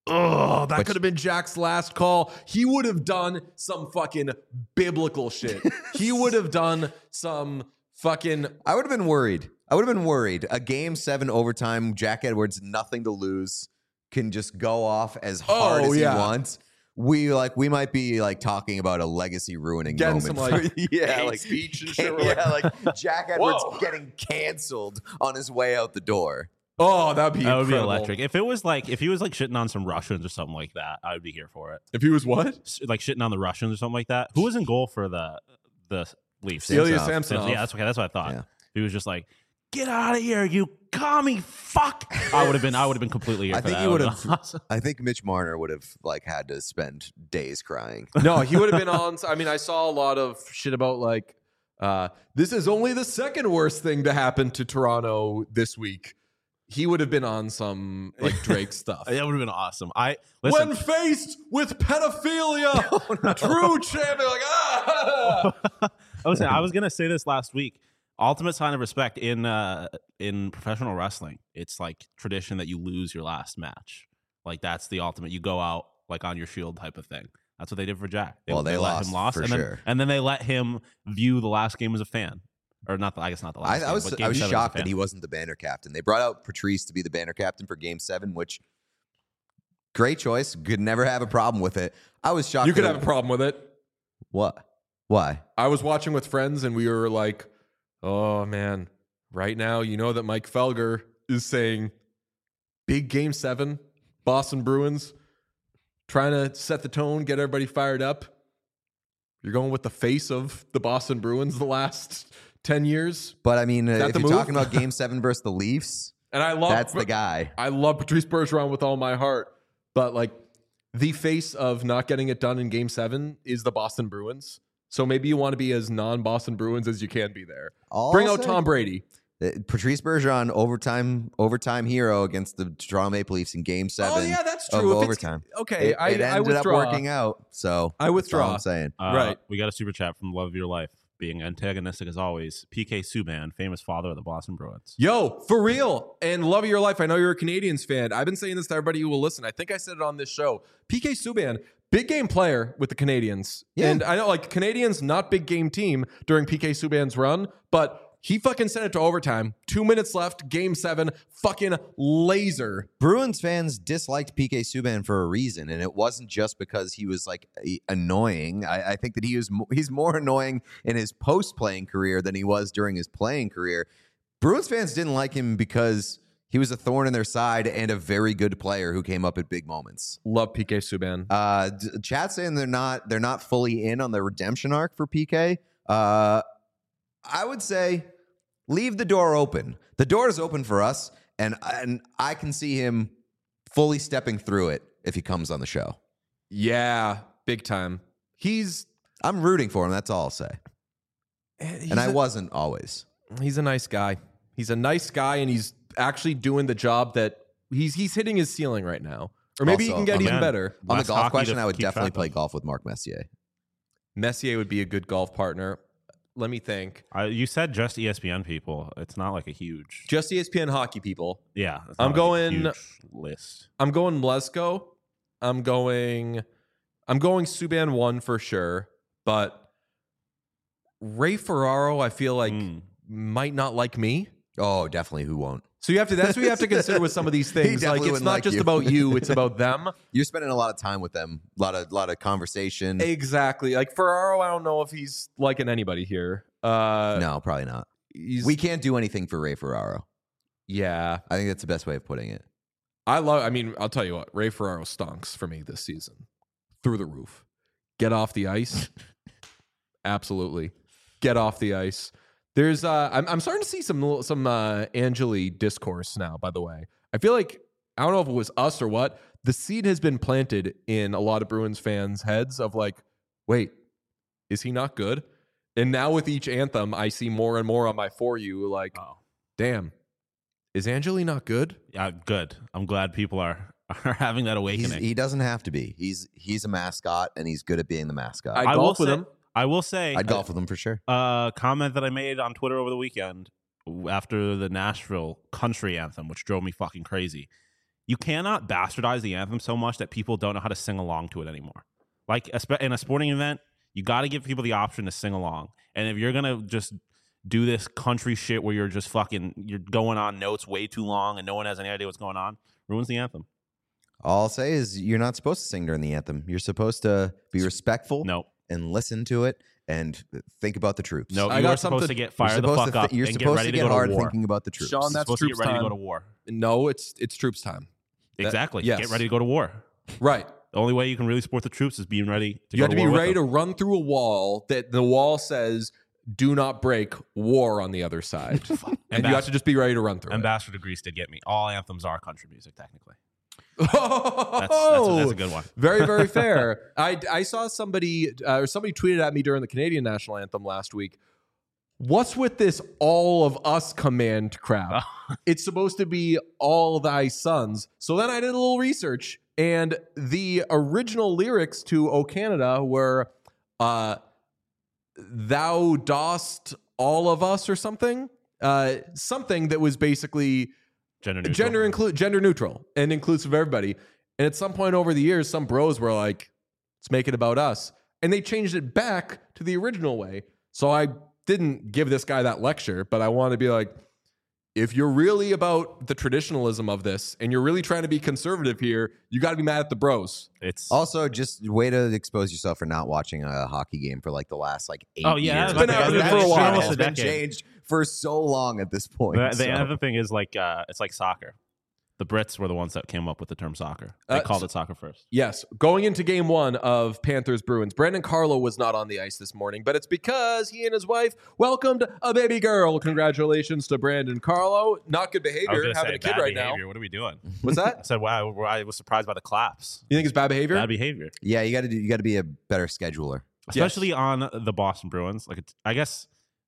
Oh, that But- could have been Jack's last call. He would have done some fucking biblical shit. He would have done some fucking. I would have been worried. I would have been worried. A game seven overtime, Jack Edwards, nothing to lose, can just go off as hard Oh, as yeah. he wants. We like we might be like talking about a legacy ruining Getting moment. some, like, for, yeah, hate like speech and shit. We're yeah, like Jack Edwards Whoa. getting canceled on his way out the door. Oh, that'd be That would be incredible. electric. If it was like, if he was like shitting on some Russians or something like that, I would be here for it. If he was what? S- Like shitting on the Russians or something like that. Who was in goal for the the Leafs? Ilya Ilya Samsonov. Samsonov. Yeah, that's okay. That's what I thought. Yeah. He was just like, "Get out of here, you commie fuck!" I would have been. I would have been completely here I for think that. he That would would've have. been awesome. I think Mitch Marner would have like had to spend days crying. No, he would have been on. I mean, I saw a lot of shit about like, uh, this is only the second worst thing to happen to Toronto this week. He would have been on some like Drake stuff. That would have been awesome. I listen. When faced with pedophilia, true champion, like ah. I was I was gonna say this last week. Ultimate sign of respect in uh, in professional wrestling. It's like tradition that you lose your last match. Like that's the ultimate. You go out like on your shield type of thing. That's what they did for Jack. Well, they let lost, him lost, for and then, sure. and then they let him view the last game as a fan, or not. The, I guess not the last. I, game, I was but I game was seven as a shocked fan. that he wasn't the banner captain. They brought out Patrice to be the banner captain for Game Seven, which great choice. Could never have a problem with it. I was shocked. You could that have a problem with it. What? Why? I was watching with friends and we were like, oh man, right now, you know that Mike Felger is saying big game seven, Boston Bruins, trying to set the tone, get everybody fired up. You're going with the face of the Boston Bruins the last ten years. But I mean, uh, that if the you're move? talking about Game Seven versus the Leafs, And I love that's the guy. I love Patrice Bergeron with all my heart. But like the face of not getting it done in game seven is the Boston Bruins. So maybe you want to be as non-Boston Bruins as you can be there. All Bring I'll out say- Tom Brady. Uh, Patrice Bergeron, overtime overtime hero against the Toronto Maple Leafs in Game Seven. Oh yeah, that's of true. If it's- overtime. Okay, It, I, it I ended withdraw. up working out. So I that's all withdraw. I'm saying. Uh, Right. We got a super chat from Love of Your Life, being antagonistic as always. P K Subban, famous father of the Boston Bruins. Yo, for real. And love of your life. I know you're a Canadians fan. I've been saying this to everybody who will listen. I think I said it on this show. P K Subban, big game player with the Canadians. Yeah. And I know like Canadians, not big game team during P K Subban's run, but He fucking sent it to overtime. Two minutes left, game seven, fucking laser. Bruins fans disliked P K Subban for a reason, and it wasn't just because he was like a- annoying. I, I think that he was mo- he's more annoying in his post-playing career than he was during his playing career. Bruins fans didn't like him because he was a thorn in their side and a very good player who came up at big moments. Love P K Subban. Uh, d- chat saying they're not they're not fully in on the redemption arc for P K. Uh, I would say leave the door open. The door is open for us, and and I can see him fully stepping through it if he comes on the show. Yeah, big time. He's I'm rooting for him. That's all I'll say. he's And I a- wasn't always. He's a nice guy. He's a nice guy, and he's actually doing the job that he's he's hitting his ceiling right now. Or maybe he Also, can get oh, even man. better. On Less the golf hockey question, to I would keep definitely track play of. golf with Mark Messier. Messier would be a good golf partner. Let me think. Uh, you said just E S P N people. It's not like a huge. Just E S P N hockey people. Yeah, it's I'm not like a going- huge list. I'm going Mlezko. I'm going I'm going Subban one for sure, but Ray Ferraro, I feel like Mm. might not like me. Oh, definitely. Who won't? So you have to that's what you have to consider with some of these He things. Like definitely it's wouldn't not like just you. about you, it's about them. You're spending a lot of time with them. A lot of lot of conversation. Exactly. Like Ferraro, I don't know if he's liking anybody here. Uh no, probably not. he's, We can't do anything for Ray Ferraro. yeah. I think that's the best way of putting it. I love I mean, I'll tell you what, Ray Ferraro stonks for me this season. Through the roof. Get off the ice. Absolutely. Get off the ice. There's uh I'm I'm starting to see some some uh Angeli discourse now, by the way. I feel like I don't know if it was us or what. The seed has been planted in a lot of Bruins fans' heads of like, wait, is he not good? And now with each anthem, I see more and more on my For You like, Oh, damn, is Angeli not good? yeah, good. I'm glad people are are having that He's, awakening. he doesn't have to be. He's he's a mascot, and he's good at being the mascot. I I will golf with say- him. I will say, I'd golf with him for sure. a comment that I made on Twitter over the weekend after the Nashville country anthem, which drove me fucking crazy. You cannot bastardize the anthem so much that people don't know how to sing along to it anymore. Like espe- in a sporting event, you got to give people the option to sing along. And if you're gonna just do this country shit where you're just fucking you're going on notes way too long and no one has any idea what's going on, ruins the anthem. All I'll say is you're not supposed to sing during the anthem. You're supposed to be respectful No, and listen to it and think about the troops. no, I you got are supposed something- to get You're fired the supposed fuck to up thi- you're and get supposed ready to to get go to hard war. thinking about the troops. Sean, You're that's supposed to troops get ready time. to go to war. No, it's it's troops time. That- Exactly. yes. Get ready to go to war. Right. The only way you can really support the troops is being ready to You go have to be war with ready to them. run through a wall that the wall says do not break, war on the other side. and you have to just be ready to run through Ambassador to Greece did get me. All anthems are country music, technically. it. That's, that's, a, that's a good one. Very, very fair. I, I saw somebody uh, or somebody tweeted at me during the Canadian national anthem last week. What's with this all of us command crap? It's supposed to be all thy sons. So then I did a little research, and the original lyrics to O Canada were uh, thou dost all of us or something. Uh, something that was basically Gender neutral. gender include gender neutral and inclusive of everybody. And at some point over the years, some bros were like, let's make it about us. And they changed it back to the original way. So I didn't give this guy that lecture, but I want to be like, if you're really about the traditionalism of this and you're really trying to be conservative here, you got to be mad at the bros. It's Also, just way to expose yourself for not watching a hockey game for like the last like eight Oh, yeah, years. it's been Like, happening that for a shit while. has Almost a been decade. changed for so long at this point. the, the so. other thing is like uh, it's like soccer. The Brits were the ones that came up with the term soccer. They Uh, called so- it soccer first. Yes, going into game one of Panthers Bruins, Brandon Carlo was not on the ice this morning, but it's because he and his wife welcomed a baby girl. Congratulations to Brandon Carlo. Not good I was behavior gonna having say, a kid bad right behavior. now. What are we doing? What's I that? said, wow, I was surprised by the claps. You think it's bad behavior? Bad behavior. Yeah, you got to do. You got to be a better scheduler. Especially on the Boston Bruins. Like, it's, I guess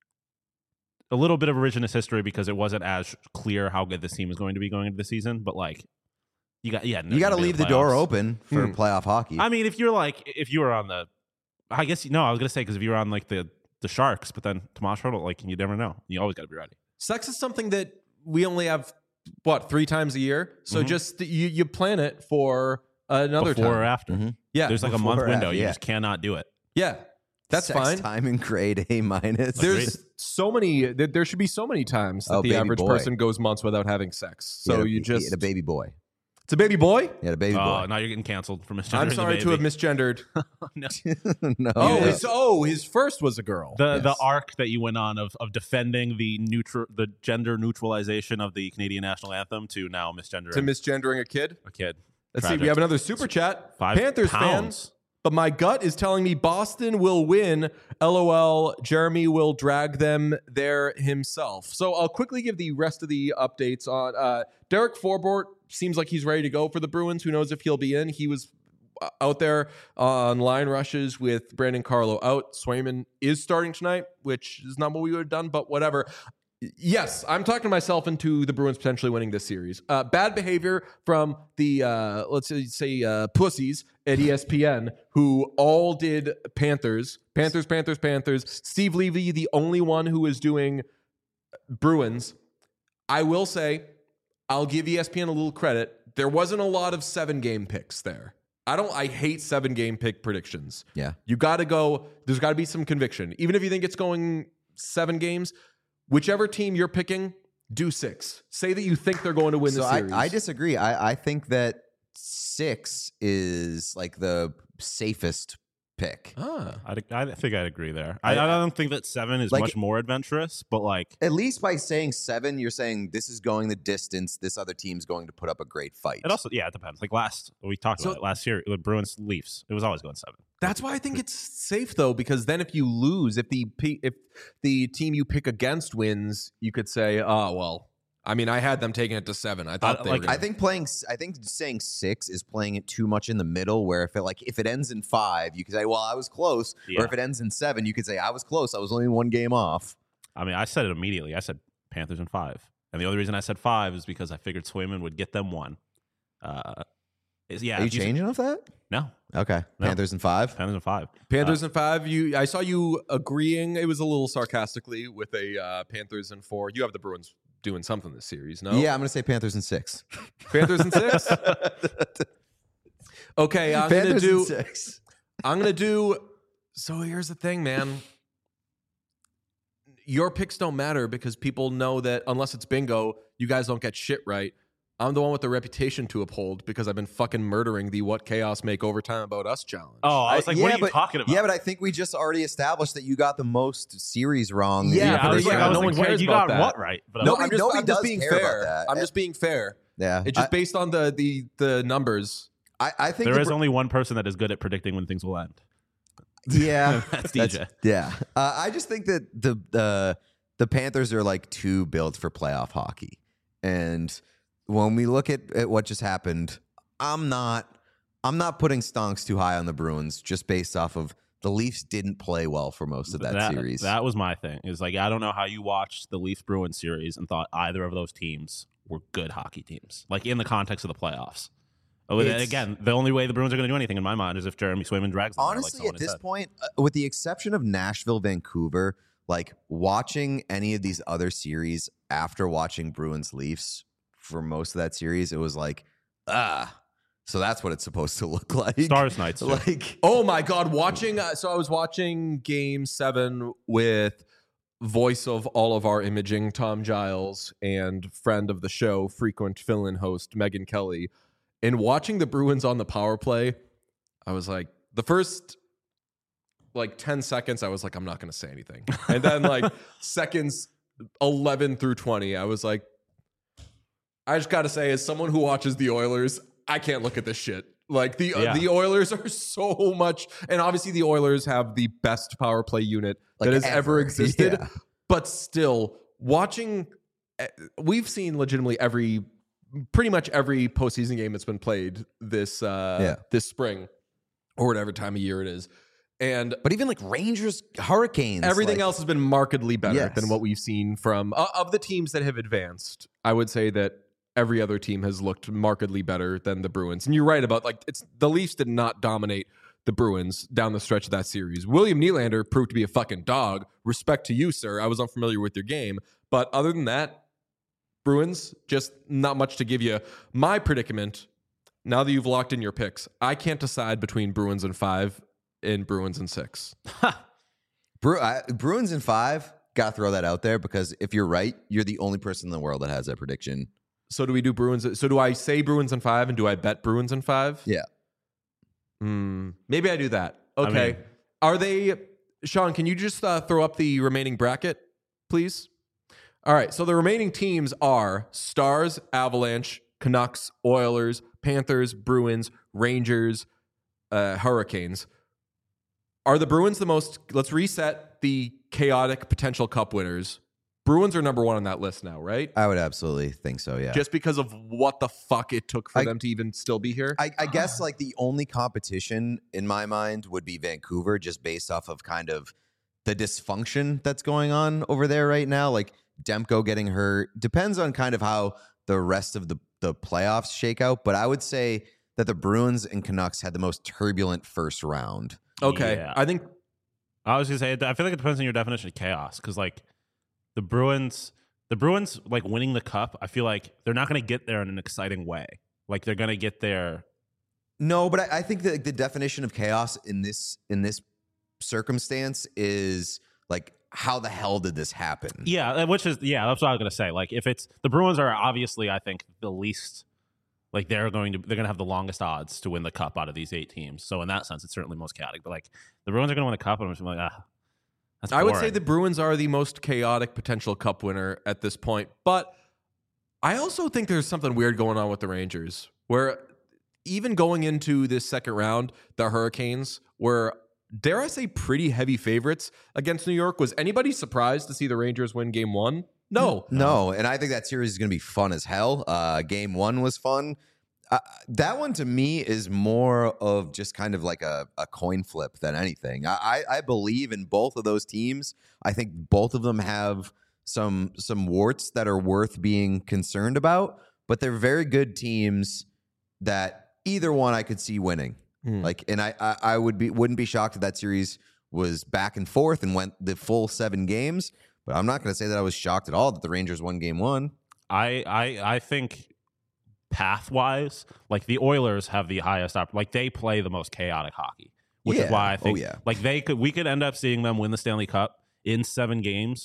a little bit of revisionist history because it wasn't as clear how good this team is going to be going into the season. But like, you got yeah, You got to leave the door playoffs. open for Hmm. playoff hockey. I mean, if you're like, if you were on the, I guess no, I was gonna say because if you were on like the the Sharks, but then Tomas Hertl, like you never know. You always got to be ready. Sex is something that we only have, what, three times a year? So Mhm. just you, you plan it for another Before or time. after. Mhm. Yeah. There's like a Before month or window. after, You yeah. just cannot do it. yeah. That's Sex fine. time in grade A minus. There's so many. There, there should be so many times that Oh, the baby average boy. person goes months without having sex. He had So a- you he just had a baby boy. it's a baby boy. He had a baby Oh, boy. now you're getting canceled for misgendering I'm the sorry to have baby. misgendered. No. no. Oh, yeah. his, oh, his first was a girl. The the Yes. arc that you went on of of defending the neutral the gender neutralization of the Canadian national anthem to now misgendering to misgendering a kid. a kid. Let's Tragic. see. We have another super chat. Five Panthers pounds. fans. But my gut is telling me Boston will win. LOL. Jeremy will drag them there himself. So I'll quickly give the rest of the updates on uh, Derek Forbort. Seems like he's ready to go for the Bruins. Who knows if he'll be in? He was out there on line rushes with Brandon Carlo out. Swayman is starting tonight, which is not what we would have done, but whatever. Yes, I'm talking myself into the Bruins potentially winning this series. Uh, bad behavior from the, uh, let's say, say uh, pussies at E S P N who all did Panthers, Panthers, Panthers, Panthers. Steve Levy, the only one who is doing Bruins. I will say, I'll give E S P N a little credit. There wasn't a lot of seven game picks there. I don't, I hate seven game pick predictions. Yeah. You got to go, there's got to be some conviction. Even if you think it's going seven games, whichever team you're picking, do six. Say that you think they're going to win So the I, series. I disagree. I, I think that six is like the safest pick. Ah. I'd, I think I'd agree there. I, I don't think that seven is Like- much more adventurous, but like At least by saying seven, you're saying this is going the distance. This other team's going to put up a great fight. it also yeah it depends. Like last we talked So- about it last year, the Bruins Leafs. It was always going seven. That's why I think it's safe though, because then if you lose, if the P- if the team you pick against wins, you could say, "Oh well." I mean, I had them taking it to seven. I thought Uh, they like, were I gonna- think playing. I think saying six is playing it too much in the middle. Where if it like if it ends in five, you could say, "Well, I was close." Yeah. Or if it ends in seven, you could say, "I was close. I was only one game off." I mean, I said it immediately. I said Panthers in five, and the only reason I said five is because I figured Swayman would get them one. Uh, is, yeah, Are you if said- changing off that? no, Okay, No. Panthers in five. Panthers in five. Panthers in five. You, I saw you agreeing. It was a little sarcastically with a uh, Panthers in four. You have the Bruins doing something this series, no? Yeah, I'm gonna say Panthers in six. Panthers in six. Okay, I'm gonna Panthers in do. six. I'm gonna do. So here's the thing, man. Your picks don't matter because people know that unless it's bingo, you guys don't get shit right. I'm the one with the reputation to uphold because I've been fucking murdering the "What Chaos Make Overtime About Us" challenge. Oh, I was like, yeah, what are you but, talking about? Yeah, but I think we just already established that you got the most series wrong. Yeah, yeah, but I was yeah, like, I was no like, one wait, cares you about got that. what right? But no, I'm I'm just, nobody I'm just does being care about fair. that. I'm just being fair. yeah. It's just I, based on the the the numbers. I, I think there the is Bru- only one person that is good at predicting when things will end. yeah. That's D J. Yeah, uh, I just think that the the the Panthers are like too built for playoff hockey, and when we look at, at what just happened, I'm not I'm not putting Stonks too high on the Bruins just based off of the Leafs didn't play well for most of that, series. That was my thing. Is like I don't know how you watched the Leafs Bruins series and thought either of those teams were good hockey teams. Like in the context of the playoffs. Oh, It's- again, the only way the Bruins are going to do anything in my mind is if Jeremy Swayman drags them. there, like Honestly, someone at had this said. point, uh, with the exception of Nashville, Vancouver, like watching any of these other series after watching Bruins Leafs for most of that series, it was like, ah, so that's what it's supposed to look like. Stars Nights. too. Like, Oh my god, watching uh, so I was watching game seven with voice of all of our imaging, Tom Giles, and friend of the show, frequent fill-in host Megan Kelly. And watching the Bruins on the power play, I was like, the first like ten seconds, I was like, I'm not gonna say anything. And then like seconds eleven through twenty, I was like, I just gotta say, as someone who watches the Oilers, I can't look at this shit. Like the Yeah. uh, the Oilers are so much, and obviously the Oilers have the best power play unit Like that has ever, ever. existed. Yeah. But still, watching, eh, we've seen legitimately every, pretty much every postseason game that's been played this uh, Yeah. this spring, or whatever time of year it is, and but even like Rangers, Hurricanes, everything like, else has been markedly better Yes. than what we've seen from uh, of the teams that have advanced. I would say that every other team has looked markedly better than the Bruins. And you're right about like it's the Leafs did not dominate the Bruins down the stretch of that series. William Nylander proved to be a fucking dog. Respect to you, sir. I was unfamiliar with your game, but other than that, Bruins just not much to give you. My predicament, now that you've locked in your picks, I can't decide between Bruins and five and Bruins and six. Bru- I, Bruins in five. Gotta throw that out there because if you're right, you're the only person in the world that has that prediction. So do we do Bruins? So do I say Bruins in five, and do I bet Bruins in five? Yeah. Hmm. Maybe I do that. Okay. I mean- Are they, Sean? Can you just uh, throw up the remaining bracket, please? All right. So the remaining teams are Stars, Avalanche, Canucks, Oilers, Panthers, Bruins, Rangers, uh, Hurricanes. Are the Bruins the most? Let's reset the chaotic potential cup winners. Bruins are number one on that list now, right? I would absolutely think so, yeah. Just because of what the fuck it took for I- them to even still be here. I, I guess like the only competition in my mind would be Vancouver, just based off of kind of the dysfunction that's going on over there right now. Like Demko getting hurt depends on kind of how the rest of the, the playoffs shake out. But I would say that the Bruins and Canucks had the most turbulent first round. Okay, Yeah. I think I was gonna say, I feel like it depends on your definition of chaos, because like the Bruins, the Bruins like winning the cup, I feel like they're not gonna get there in an exciting way. Like they're gonna get there. No, but I, I think that the definition of chaos in this in this circumstance is like, how the hell did this happen? Yeah, which is yeah, that's what I was gonna say. Like if it's the Bruins are obviously, I think the least. Like they're going to they're going to have the longest odds to win the cup out of these eight teams. So in that sense, it's certainly most chaotic. But like the Bruins are going to win the cup, and I'm just like, ah, that's I would say boring. the Bruins are the most chaotic potential cup winner at this point. But I also think there's something weird going on with the Rangers, where even going into this second round, the Hurricanes were, dare I say, pretty heavy favorites against New York. Was anybody surprised to see the Rangers win game one? No. No, and I think that series is going to be fun as hell. Uh, game one was fun. Uh, that one to me is more of just kind of like a, a coin flip than anything. I, I, I believe in both of those teams. I think both of them have some some warts that are worth being concerned about, but they're very good teams that either one I could see winning. Hmm. Like, and I, I I would be wouldn't be shocked if that series was back and forth and went the full seven games. But I'm not going to say that I was shocked at all that the Rangers won game one. I I I think path wise, like the Oilers have the highest op- like they play the most chaotic hockey, which Yeah. is why I think Oh, yeah. like they could we could end up seeing them win the Stanley Cup in seven games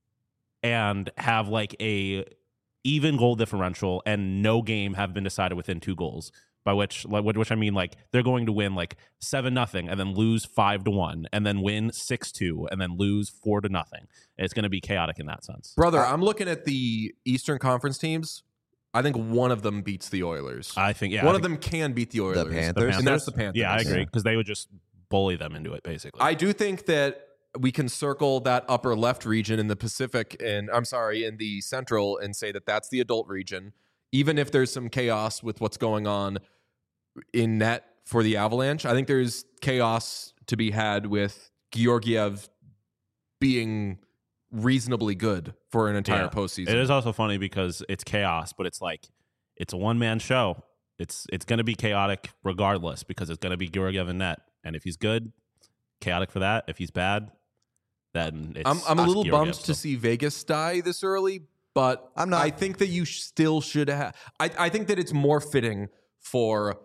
and have like a even goal differential and no game have been decided within two goals. By which, like, which I mean, like they're going to win like seven nothing, and then lose five to one, and then win six two, and then lose four to nothing. It's going to be chaotic in that sense. Brother, I'm looking at the Eastern Conference teams. I think one of them beats the Oilers. I think yeah, one I of think them can beat the Oilers. Panthers? And that's the Panthers. Yeah, I agree Yeah. because they would just bully them into it basically. I do think that we can circle that upper left region in the Pacific, and I'm sorry, in the Central, and say that that's the adult region, even if there's some chaos with what's going on in net for the Avalanche. I think there's chaos to be had with Georgiev being reasonably good for an entire Yeah. postseason. It is also funny because it's chaos, but it's like it's a one man show. It's it's going to be chaotic regardless because it's going to be Georgiev in net, and if he's good, chaotic for that. If he's bad, then it's I'm, I'm a us little Georgiev, bummed so. to see Vegas die this early, but I'm not- I think that you sh- still should have. I, I think that it's more fitting for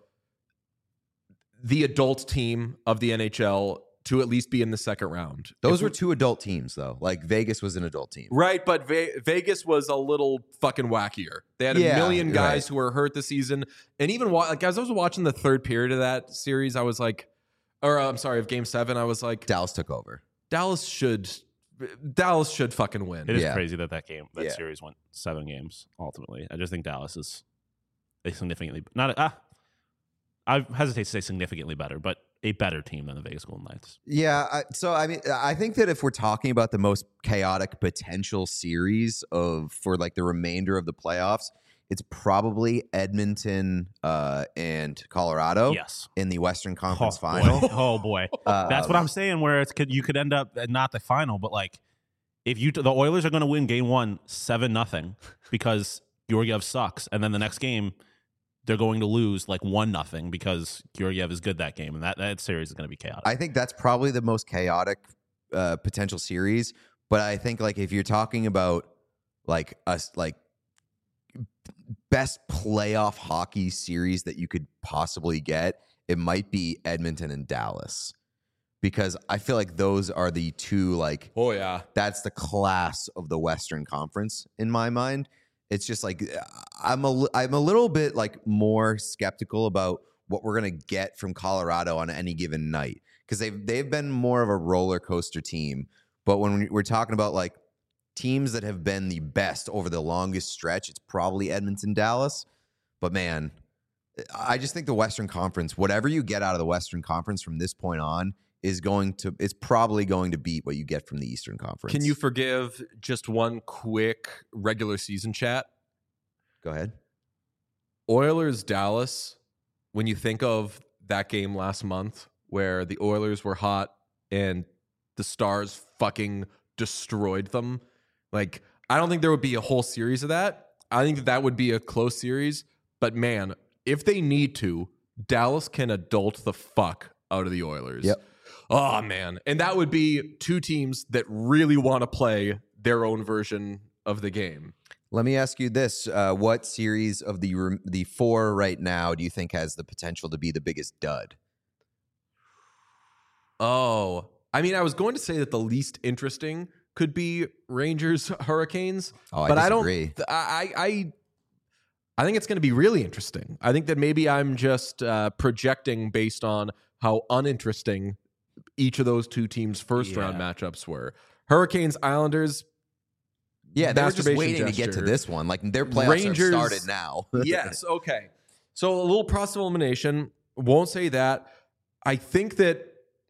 the adult team of the N H L to at least be in the second round. Those If were we- two adult teams, though. Like Vegas was an adult team. right, but Ve- Vegas was a little fucking wackier. They had a Yeah, million guys right. who were hurt this season, and even wa- like as I was watching the third period of that series, I was like, or uh, I'm sorry, of Game Seven, I was like, Dallas took over. Dallas should, Dallas should fucking win. It is Yeah. crazy that that game, that Yeah. series went seven games ultimately. I just think Dallas is a significantly not. Ah, I hesitate to say significantly better, but a better team than the Vegas Golden Knights. Yeah. I, so I mean, I think that if we're talking about the most chaotic potential series of for like the remainder of the playoffs, it's probably Edmonton uh, and Colorado Yes, in the Western Conference oh, Final. Boy. Oh boy, that's what Um, I'm saying. Where it's could you could end up at not the final, but like if you the Oilers are going to win Game One seven nothing because Georgiev sucks, and then the next game they're going to lose like one nothing because Georgiev is good that game, and that, that series is going to be chaotic. I think that's probably the most chaotic uh, potential series. But I think like if you're talking about like us like best playoff hockey series that you could possibly get, it might be Edmonton and Dallas. because I feel like those are the two, like, Oh, yeah. that's the class of the Western Conference in my mind. It's just like I'm a I'm a little bit like more skeptical about what we're gonna get from Colorado on any given night, because they've they've been more of a roller coaster team. But when we're talking about like teams that have been the best over the longest stretch, it's probably Edmonton, Dallas. But man, I just think the Western Conference, whatever you get out of the Western Conference from this point on, is going to it's probably going to beat what you get from the Eastern Conference. Can you forgive just one quick regular season chat? Go ahead. Oilers Dallas, when you think of that game last month where the Oilers were hot and the Stars fucking destroyed them, like, I don't think there would be a whole series of that. I think that, that would be a close series. But man, if they need to, Dallas can adult the fuck out of the Oilers. Yep. Oh, man. And that would be two teams that really want to play their own version of the game. Let me ask you this. Uh, what series of the the four right now do you think has the potential to be the biggest dud? Oh, I mean, I was going to say that the least interesting could be Rangers Hurricanes. Oh, I but disagree. I don't. I I I think it's going to be really interesting. I think that maybe I'm just uh, projecting based on how uninteresting each of those two teams' first Yeah. round matchups were. Hurricanes, Islanders. Yeah, they were just masturbation waiting to get to gesture. this one. Like, their playoffs Rangers- have started now. Yes. Okay. So a little process of elimination. Won't say that. I think that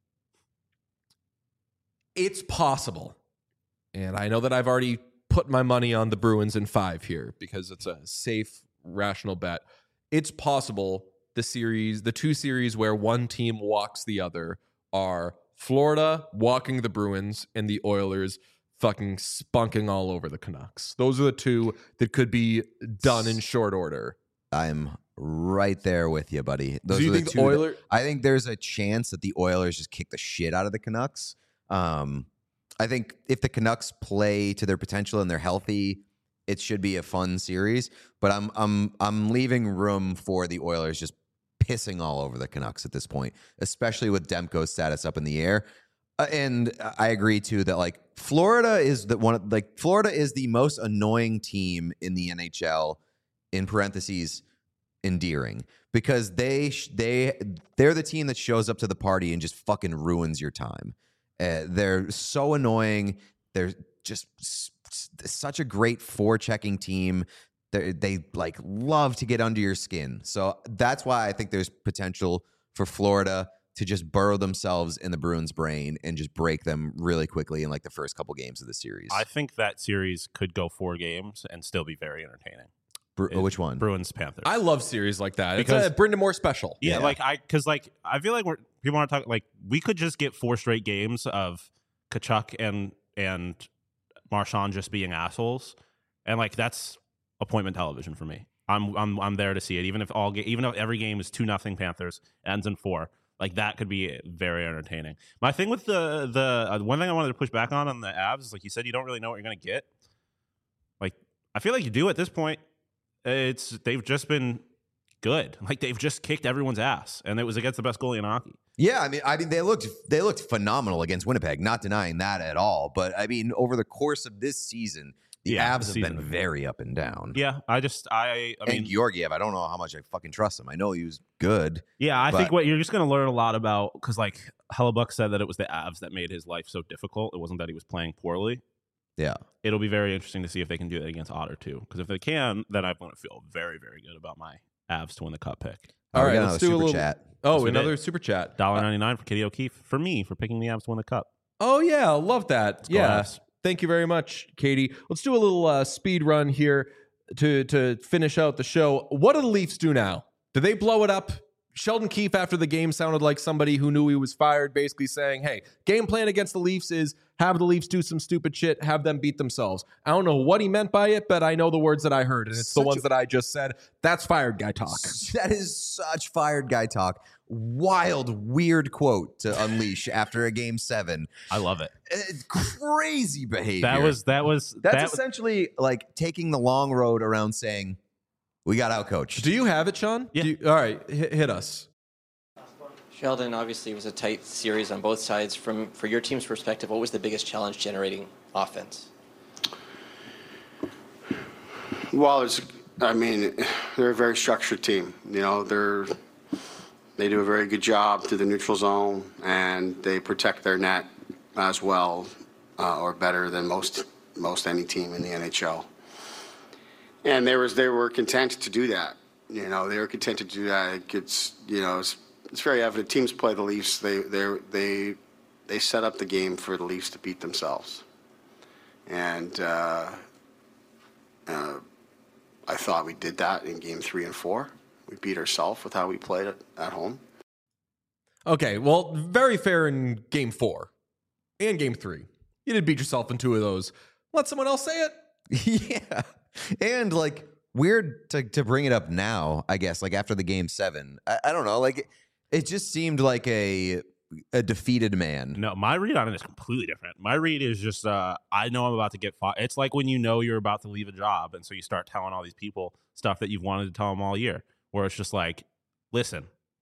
it's possible, and I know that I've already put my money on the Bruins in five here because it's a safe, rational bet. It's possible the series, the two series where one team walks the other, are Florida walking the Bruins and the Oilers fucking spunking all over the Canucks. Those are the two that could be done in short order. I'm right there with you, buddy. Those Do you are the think the two that- Oilers? I think there's a chance that the Oilers just kick the shit out of the Canucks. Um, I think if the Canucks play to their potential and they're healthy, it should be a fun series. But I'm I'm I'm leaving room for the Oilers just pissing all over the Canucks at this point, especially with Demko's status up in the air. Uh, and I agree too that like Florida is the one of, like Florida is the most annoying team in the N H L. In parentheses, endearing, because they sh- they they're the team that shows up to the party and just fucking ruins your time. Uh, they're so annoying. They're just s- s- such a great forechecking team. They they like love to get under your skin. So that's why I think there's potential for Florida to just burrow themselves in the Bruins' brain and just break them really quickly in like the first couple games of the series. I think that series could go four games and still be very entertaining. Bru- It- which one? Bruins Panthers. I love series like that. Because- It's a Brendan Moore special. Yeah, Yeah. like I, because like I feel like we're people want to talk like we could just get four straight games of Kachuk and and Marchand just being assholes, and like that's appointment television for me. I'm I'm I'm there to see it, even if all ga- even if every game is two nothing Panthers ends in four. Like that could be very entertaining. My thing with the the uh, one thing I wanted to push back on on the Avs is like you said, you don't really know what you're gonna get. Like I feel like you do at this point. It's they've just been good. Like they've just kicked everyone's ass, and it was against the best goalie in hockey. Yeah, I mean, I mean, they looked they looked phenomenal against Winnipeg. Not denying that at all. But I mean, over the course of this season, the Yeah, Avs the have season. been very up and down. Yeah, I just I I mean and Georgiev, I don't know how much I fucking trust him. I know he was good. yeah, I but- think what you're just going to learn a lot about because like Hellebuck said that it was the Avs that made his life so difficult. It wasn't that he was playing poorly. Yeah. It'll be very interesting to see if they can do that against Otter too. Because if they can, then I'm going to feel very very good about my Avs to win the Cup pick. All we right, got let's another do a super little. chat. Oh, Yes, we another did. super chat. Dollar Uh, ninety nine for Katie O'Keefe for me for picking the Avs to win the Cup. Oh yeah, love that. go Yeah, Avs. thank you very much, Katie. Let's do a little uh, speed run here to to finish out the show. What do the Leafs do now? Do they blow it up? Sheldon Keefe after the game sounded like somebody who knew he was fired, basically saying, "Hey, game plan against the Leafs is have the Leafs do some stupid shit, have them beat themselves." I don't know what he meant by it, but I know the words that I heard, and it's the Such ones a- that I just said. That's fired guy talk. That is such fired guy talk. Wild, weird quote to unleash after a game seven. I love it. It's crazy behavior. That was that was That's that, essentially like taking the long road around saying, we got outcoached. Do you have it, Sean? Yeah. Do you, all right, hit, hit us. Sheldon, obviously, it was a tight series on both sides. From for your team's perspective, what was the biggest challenge generating offense? Well, it's, I mean, they're a very structured team. You know, they're they do a very good job through the neutral zone, and they protect their net as well, uh, or better than most most any team in the N H L. And they was they were content to do that. You know, they were content to do that. It's you know, it's, it's very evident. Teams play the Leafs. They they they they set up the game for the Leafs to beat themselves. And uh, uh, I thought we did that in game three and four. We beat ourselves with how we played at, at home. Okay, well, very fair in game four and game three. You did beat yourself in two of those. Let someone else say it. Yeah. And like weird to, to bring it up now, I guess, like after the game seven. I, I don't know. Like it, it just seemed like a a defeated man. No, my read on it is completely different. My read is just, uh, I know I'm about to get fired. It's like when you know you're about to leave a job, and so you start telling all these people stuff that you've wanted to tell them all year, where it's just like, listen,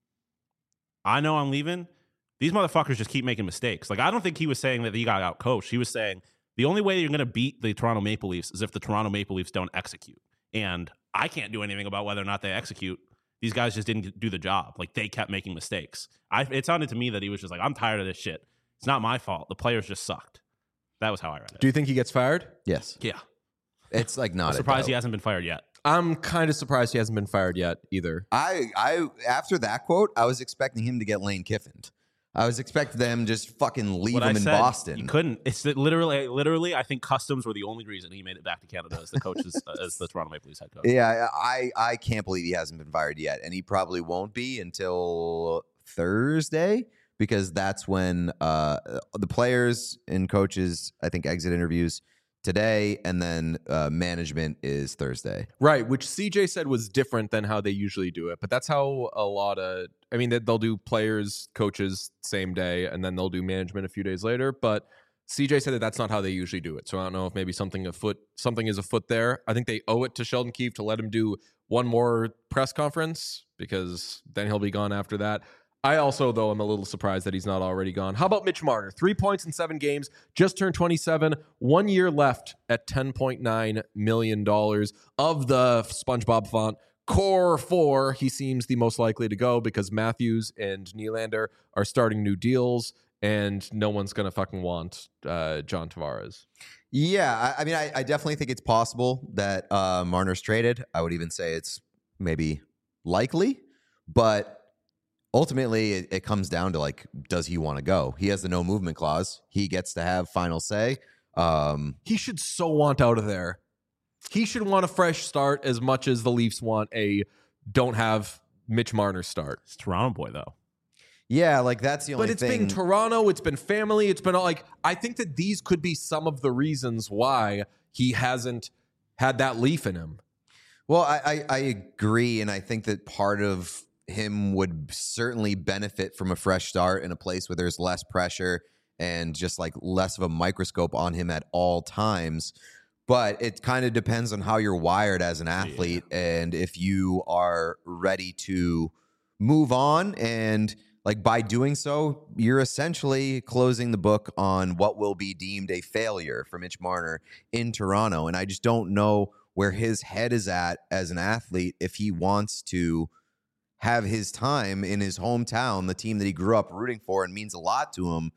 I know I'm leaving. These motherfuckers just keep making mistakes. Like, I don't think he was saying that he got out coached. He was saying the only way you're going to beat the Toronto Maple Leafs is if the Toronto Maple Leafs don't execute. And I can't do anything about whether or not they execute. These guys just didn't do the job. Like, they kept making mistakes. I, it sounded to me that he was just like, I'm tired of this shit. It's not my fault. The players just sucked. That was how I read it. Do you think he gets fired? Yes. Yeah. It's like not I'm surprised a he doubt. hasn't been fired yet. I'm kind of surprised he hasn't been fired yet either. I, I, after that quote, I was expecting him to get Lane Kiffined. I was expecting them just fucking leave What him I in said, Boston. You couldn't. It's that literally, literally, I think customs were the only reason he made it back to Canada as the coach, as, as the Toronto Maple Leafs head coach. Yeah, I, I can't believe he hasn't been fired yet, and he probably won't be until Thursday because that's when uh, the players and coaches, I think, exit interviews today, and then uh, management is Thursday. Right, which C J said was different than how they usually do it. But that's how a lot of, I mean, they'll do players, coaches same day, and then they'll do management a few days later. But C J said that that's not how they usually do it. So I don't know if maybe something afoot, something is afoot there. I think they owe it to Sheldon Keefe to let him do one more press conference because then he'll be gone after that. I also, though, am a little surprised that he's not already gone. How about Mitch Marner? Three points in seven games, just turned twenty-seven, one year left at ten point nine million dollars. Of the SpongeBob font, core four, he seems the most likely to go because Matthews and Nylander are starting new deals, and no one's going to fucking want uh, John Tavares. Yeah, I, I mean, I, I definitely think it's possible that uh, Marner's traded. I would even say it's maybe likely, but ultimately, it, it comes down to, like, does he want to go? He has the no movement clause. He gets to have final say. Um, He should so want out of there. He should want a fresh start as much as the Leafs want a don't have Mitch Marner start. It's Toronto boy, though. yeah, like, that's the only But it's thing. been Toronto, it's been family, it's been all, like, I think that these could be some of the reasons why he hasn't had that Leaf in him. Well, I, I, I agree, and I think that part of him would certainly benefit from a fresh start in a place where there's less pressure and just like less of a microscope on him at all times. But it kind of depends on how you're wired as an athlete yeah. and if you are ready to move on. And like by doing so, you're essentially closing the book on what will be deemed a failure for Mitch Marner in Toronto. And I just don't know where his head is at as an athlete if he wants to have his time in his hometown, the team that he grew up rooting for and means a lot to him,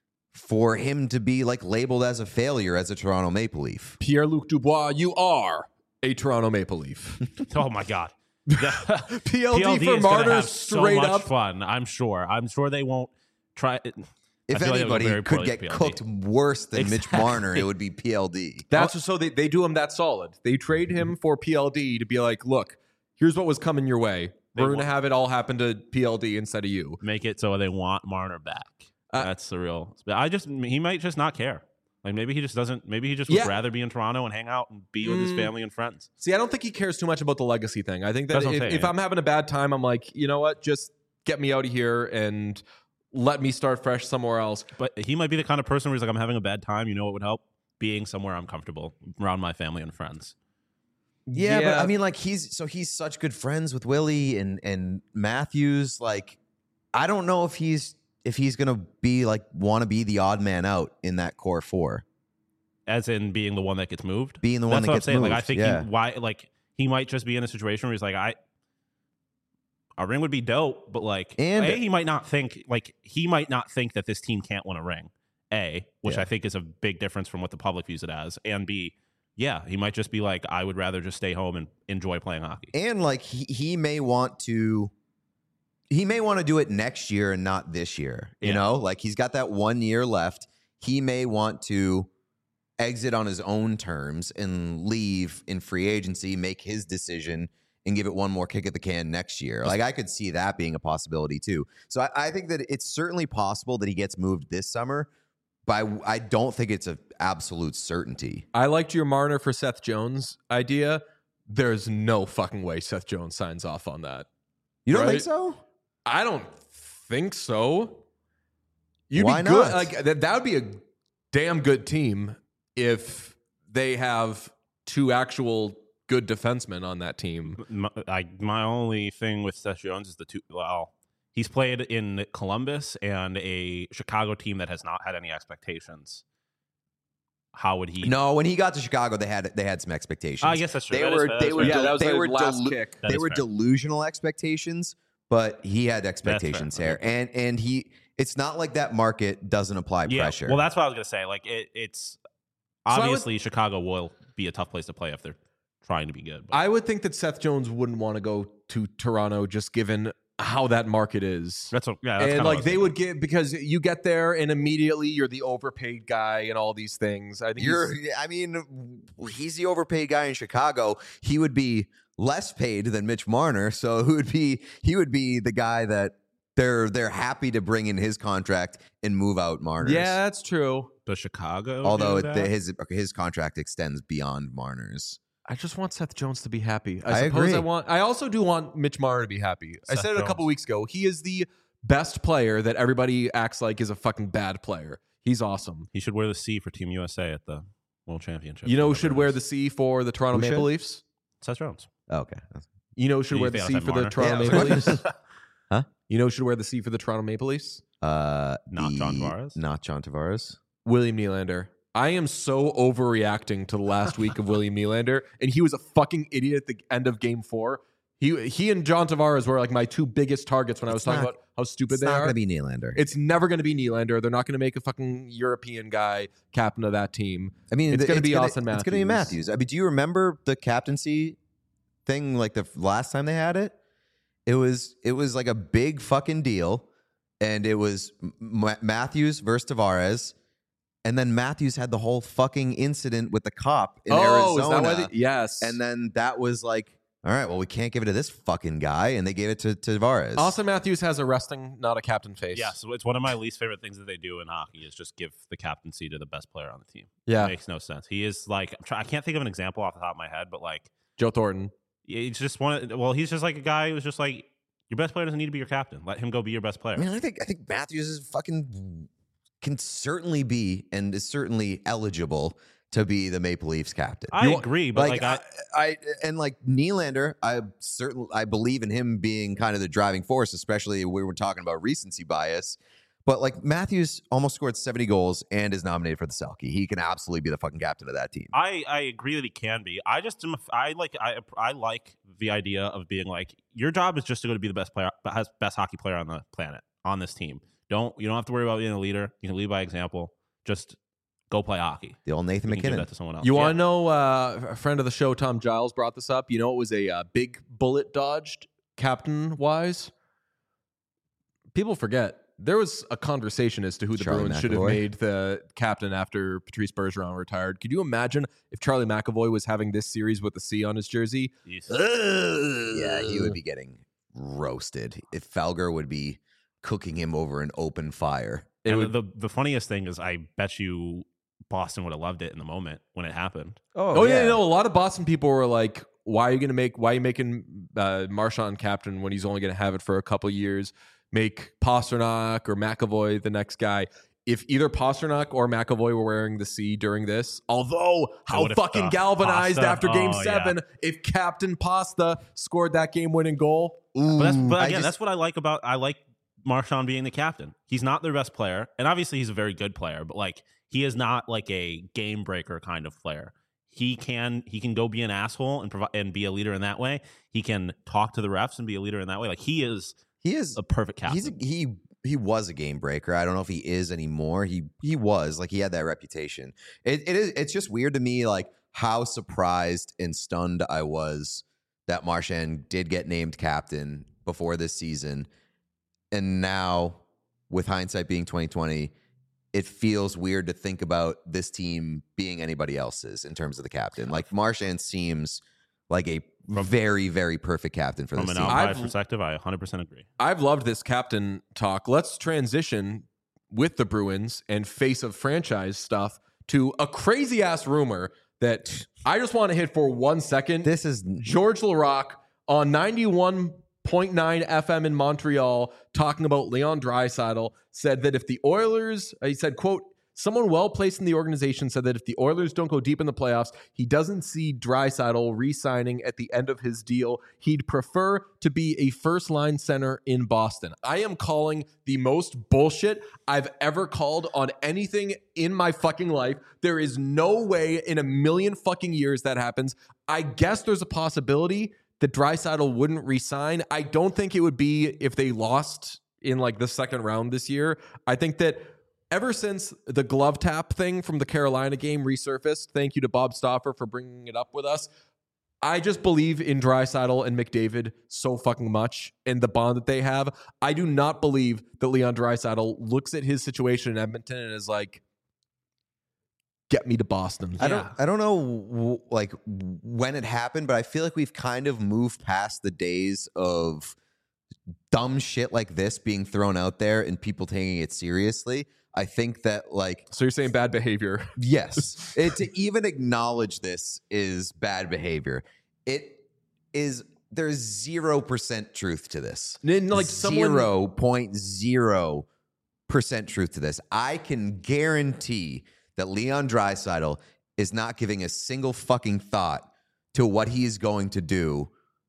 for him to be like labeled as a failure as a Toronto Maple Leaf. Pierre-Luc Dubois, you are a Toronto Maple Leaf. Oh my God. P L D, P L D for Marner straight so much up. Fun. I'm sure. I'm sure they won't try it. If anybody like could get cooked worse than exactly. Mitch Marner, it would be P L D. That's well, so they, they do him that solid. They trade him for P L D to be like, look, here's what was coming your way. We're going to have it all happen to P L D instead of you. Make it so they want Marner back. Uh, That's the real. I just he might just not care. Like maybe he just doesn't. Maybe he just would yeah. rather be in Toronto and hang out and be with mm. his family and friends. See, I don't think he cares too much about the legacy thing. I think that if, if I'm having a bad time, I'm like, you know what, just get me out of here and let me start fresh somewhere else. But he might be the kind of person where he's like, I'm having a bad time. You know what would help? Being somewhere I'm comfortable around my family and friends. Yeah, yeah, but I mean, like he's so he's such good friends with Willie and and Matthews. Like, I don't know if he's if he's gonna be like want to be the odd man out in that core four, as in being the one that gets moved. being the one That's that what gets I'm saying. moved. Like I think yeah. he, why like he might just be in a situation where he's like I. A ring would be dope, but like, And- A, he might not think like he might not think that this team can't win a ring. A, which Yeah. I think is a big difference from what the public views it as. And B, yeah, he might just be like, I would rather just stay home and enjoy playing hockey. and like he, he may want to he may want to do it next year and not this year. You Yeah. know, like he's got that one year left. He may want to exit on his own terms and leave in free agency, make his decision, and give it one more kick at the can next year. Like I could see that being a possibility too. So I, I think that it's certainly possible that he gets moved this summer, but I, I don't think it's an absolute certainty. I liked your Marner for Seth Jones idea. There's no fucking way Seth Jones signs off on that. You don't Right? think so? I don't think so. You'd Why be good. not? Like that, that would be a damn good team if they have two actual good defensemen on that team. My, I, my only thing with Seth Jones is the two. Well, he's played in Columbus and a Chicago team that has not had any expectations. How would he? No, when he got to Chicago, they had they had some expectations. I guess that's true. They That is were fair. they That's were fair. Yeah, del- that was they the were last delu- kick. That they is were fair. delusional expectations, but he had expectations fair. there, and and he it's not like that market doesn't apply Yeah. pressure. Well, that's what I was gonna say. Like it, it's I would- obviously Chicago will be a tough place to play if they're trying to be good. But I would think that Seth Jones wouldn't want to go to Toronto just given how that market is. that's what, yeah. That's And kinda what I like was they thinking. would get because you get there and immediately you're the overpaid guy and all these things. I think You're, he's- I mean, he's the overpaid guy in Chicago. He would be less paid than Mitch Marner, so he would be he would be the guy that they're they're happy to bring in his contract and move out Marner's. yeah, that's true. Does Chicago. although do it, that? the, his his contract extends beyond Marner's. I just want Seth Jones to be happy. I, I suppose agree. I want. I also do want Mitch Marner to be happy. I Seth said it a couple Jones. weeks ago. He is the best player that everybody acts like is a fucking bad player. He's awesome. he should wear the C for Team U S A at the World Championship. You know who whatever should it wear is. the C for the Toronto Who Maple should? Leafs? Seth Jones. Oh, okay. You know who should You wear the think I C said for the Marner? Toronto Yeah, Maple I was Leafs? Huh? You know who should wear the C for the Toronto Maple Leafs? Uh, Not the- John Tavares? Not John Tavares. William Nylander. I am so overreacting to the last week of William Nylander, and he was a fucking idiot at the end of Game Four. He he and John Tavares were like my two biggest targets when I was It's talking not- about how stupid It's they not are. going to be Nylander. It's never going to be Nylander. They're not going to make a fucking European guy captain of that team. I mean, it's th- gonna be gonna, Austin It's going to be Matthews. Matthews. I mean, do you remember the captaincy thing? Like the last time they had it, it was it was like a big fucking deal, and it was M- Matthews versus Tavares, and then Matthews had the whole fucking incident with the cop in oh, Arizona, is that why? They, yes. and then that was like, all right, well, we can't give it to this fucking guy, and they gave it to, to Tavares. Austin Matthews has a resting, not a captain face. Yeah, so it's one of my least favorite things that they do in hockey is just give the captaincy to the best player on the team. Yeah. It makes no sense. He is like I'm try- I can't think of an example off the top of my head, but like Joe Thornton. he's just one. Of, well, he's just like a guy who's just like your best player doesn't need to be your captain. Let him go be your best player. I mean, I think I think Matthews is fucking can certainly be and is certainly eligible to be the Maple Leafs captain. I agree, but like, I, I, I and like Nylander, I certainly I believe in him being kind of the driving force, especially we were talking about recency bias. But like Matthews almost scored seventy goals and is nominated for the Selke. He can absolutely be the fucking captain of that team. I, I agree that he can be. I just am. I like. I I like the idea of being like your job is just to go to be the best player, best hockey player on the planet on this team. Don't you don't have to worry about being a leader. You can lead by example. Just go play hockey. The old Nathan You can give that McKinnon. to someone else. You Yeah. want to know? Uh, a friend of the show, Tom Giles, brought this up. You know, it was a uh, big bullet dodged captain wise. People forget there was a conversation as to who the Charlie Bruins should have McAvoy. made the captain after Patrice Bergeron retired. Could you imagine if Charlie McAvoy was having this series with a C on his jersey? Jeez. Yeah, he would be getting roasted. If Felger would be cooking him over an open fire. It And would, the the funniest thing is, I bet you Boston would have loved it in the moment when it happened. oh yeah, no. A lot of Boston people were like, "Why are you going to make? Why are you making uh, Marchand captain when he's only going to have it for a couple years? Make Pasternak or McAvoy the next guy." If either Pasternak or McAvoy were wearing the C during this, although how would've fucking sucked. galvanized Pasta, after Game oh, Seven, if Captain Pasta scored that game-winning goal, But that's but I again, just- that's what I like about I like Marchand being the captain. He's not their best player, and obviously he's a very good player, but like he is not like a game breaker kind of player. He can he can go be an asshole and provide and be a leader in that way. He can talk to the refs and be a leader in that way. Like he is He is a perfect captain. He's a, he he was a game breaker. I don't know if he is anymore. He he was like he had that reputation. It it is it's just weird to me like how surprised and stunned I was that Marchand did get named captain before this season, and now with hindsight being twenty twenty, it feels weird to think about this team being anybody else's in terms of the captain. Like Marchand seems like a very, very perfect captain for From this an team. outsider's I've- perspective, I one hundred percent agree. I've loved this captain talk. Let's transition with the Bruins and face of franchise stuff to a crazy ass rumor that I just want to hit for one second. This is George Laraque on ninety-one point nine F M in Montreal talking about Leon Draisaitl said that if the Oilers, uh, he said, quote, someone well placed in the organization said that if the Oilers don't go deep in the playoffs, he doesn't see Draisaitl re-signing at the end of his deal. He'd prefer to be a first-line center in Boston. I am calling the most bullshit I've ever called on anything in my fucking life. There is no way in a million fucking years that happens. I guess there's a possibility that Draisaitl wouldn't resign. I don't think it would be if they lost in like the second round this year. I think that ever since the glove tap thing from the Carolina game resurfaced, thank you to Bob Stauffer for bringing it up with us, I just believe in Draisaitl and McDavid so fucking much and the bond that they have. I do not believe that Leon Draisaitl looks at his situation in Edmonton and is like, get me to Boston. I don't I don't know w- like when it happened, but I feel like we've kind of moved past the days of dumb shit like this being thrown out there and people taking it seriously. I think that like So you're saying bad behavior? yes, it, to even acknowledge this is bad behavior. It is there's zero percent truth to this. And like someone- zero point zero percent truth to this. I can guarantee that Leon Draisaitl is not giving a single fucking thought to what he is going to do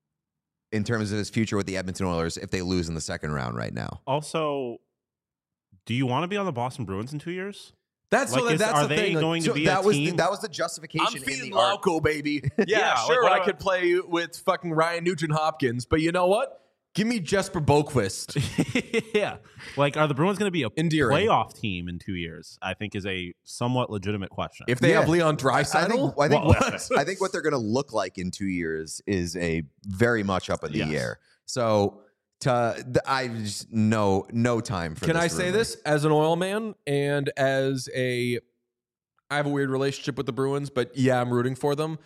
in terms of his future with the Edmonton Oilers if they lose in the second round right now. Also, do you want to be on the Boston Bruins in two years? That's Like, so is- that's are the they thing. Like, going to So be that a was team? the, that was the justification I'm in feeding the art. Lauco, baby. Yeah, Yeah, like, sure. what I about- could play with fucking Ryan Nugent Hopkins, but you know what? Give me Jesper Boquist. yeah. Like, are the Bruins going to be a Endearing. playoff team in two years? I think is a somewhat legitimate question. If they Yeah. have Leon I think, Draisaitl, I think, Well, what, I think what they're going to look like in two years is a very much up in the Yes. air. So to, th- I just no no time for. can this I say rumor. this as an oil man and as a, I have a weird relationship with the Bruins, but yeah, I'm rooting for them.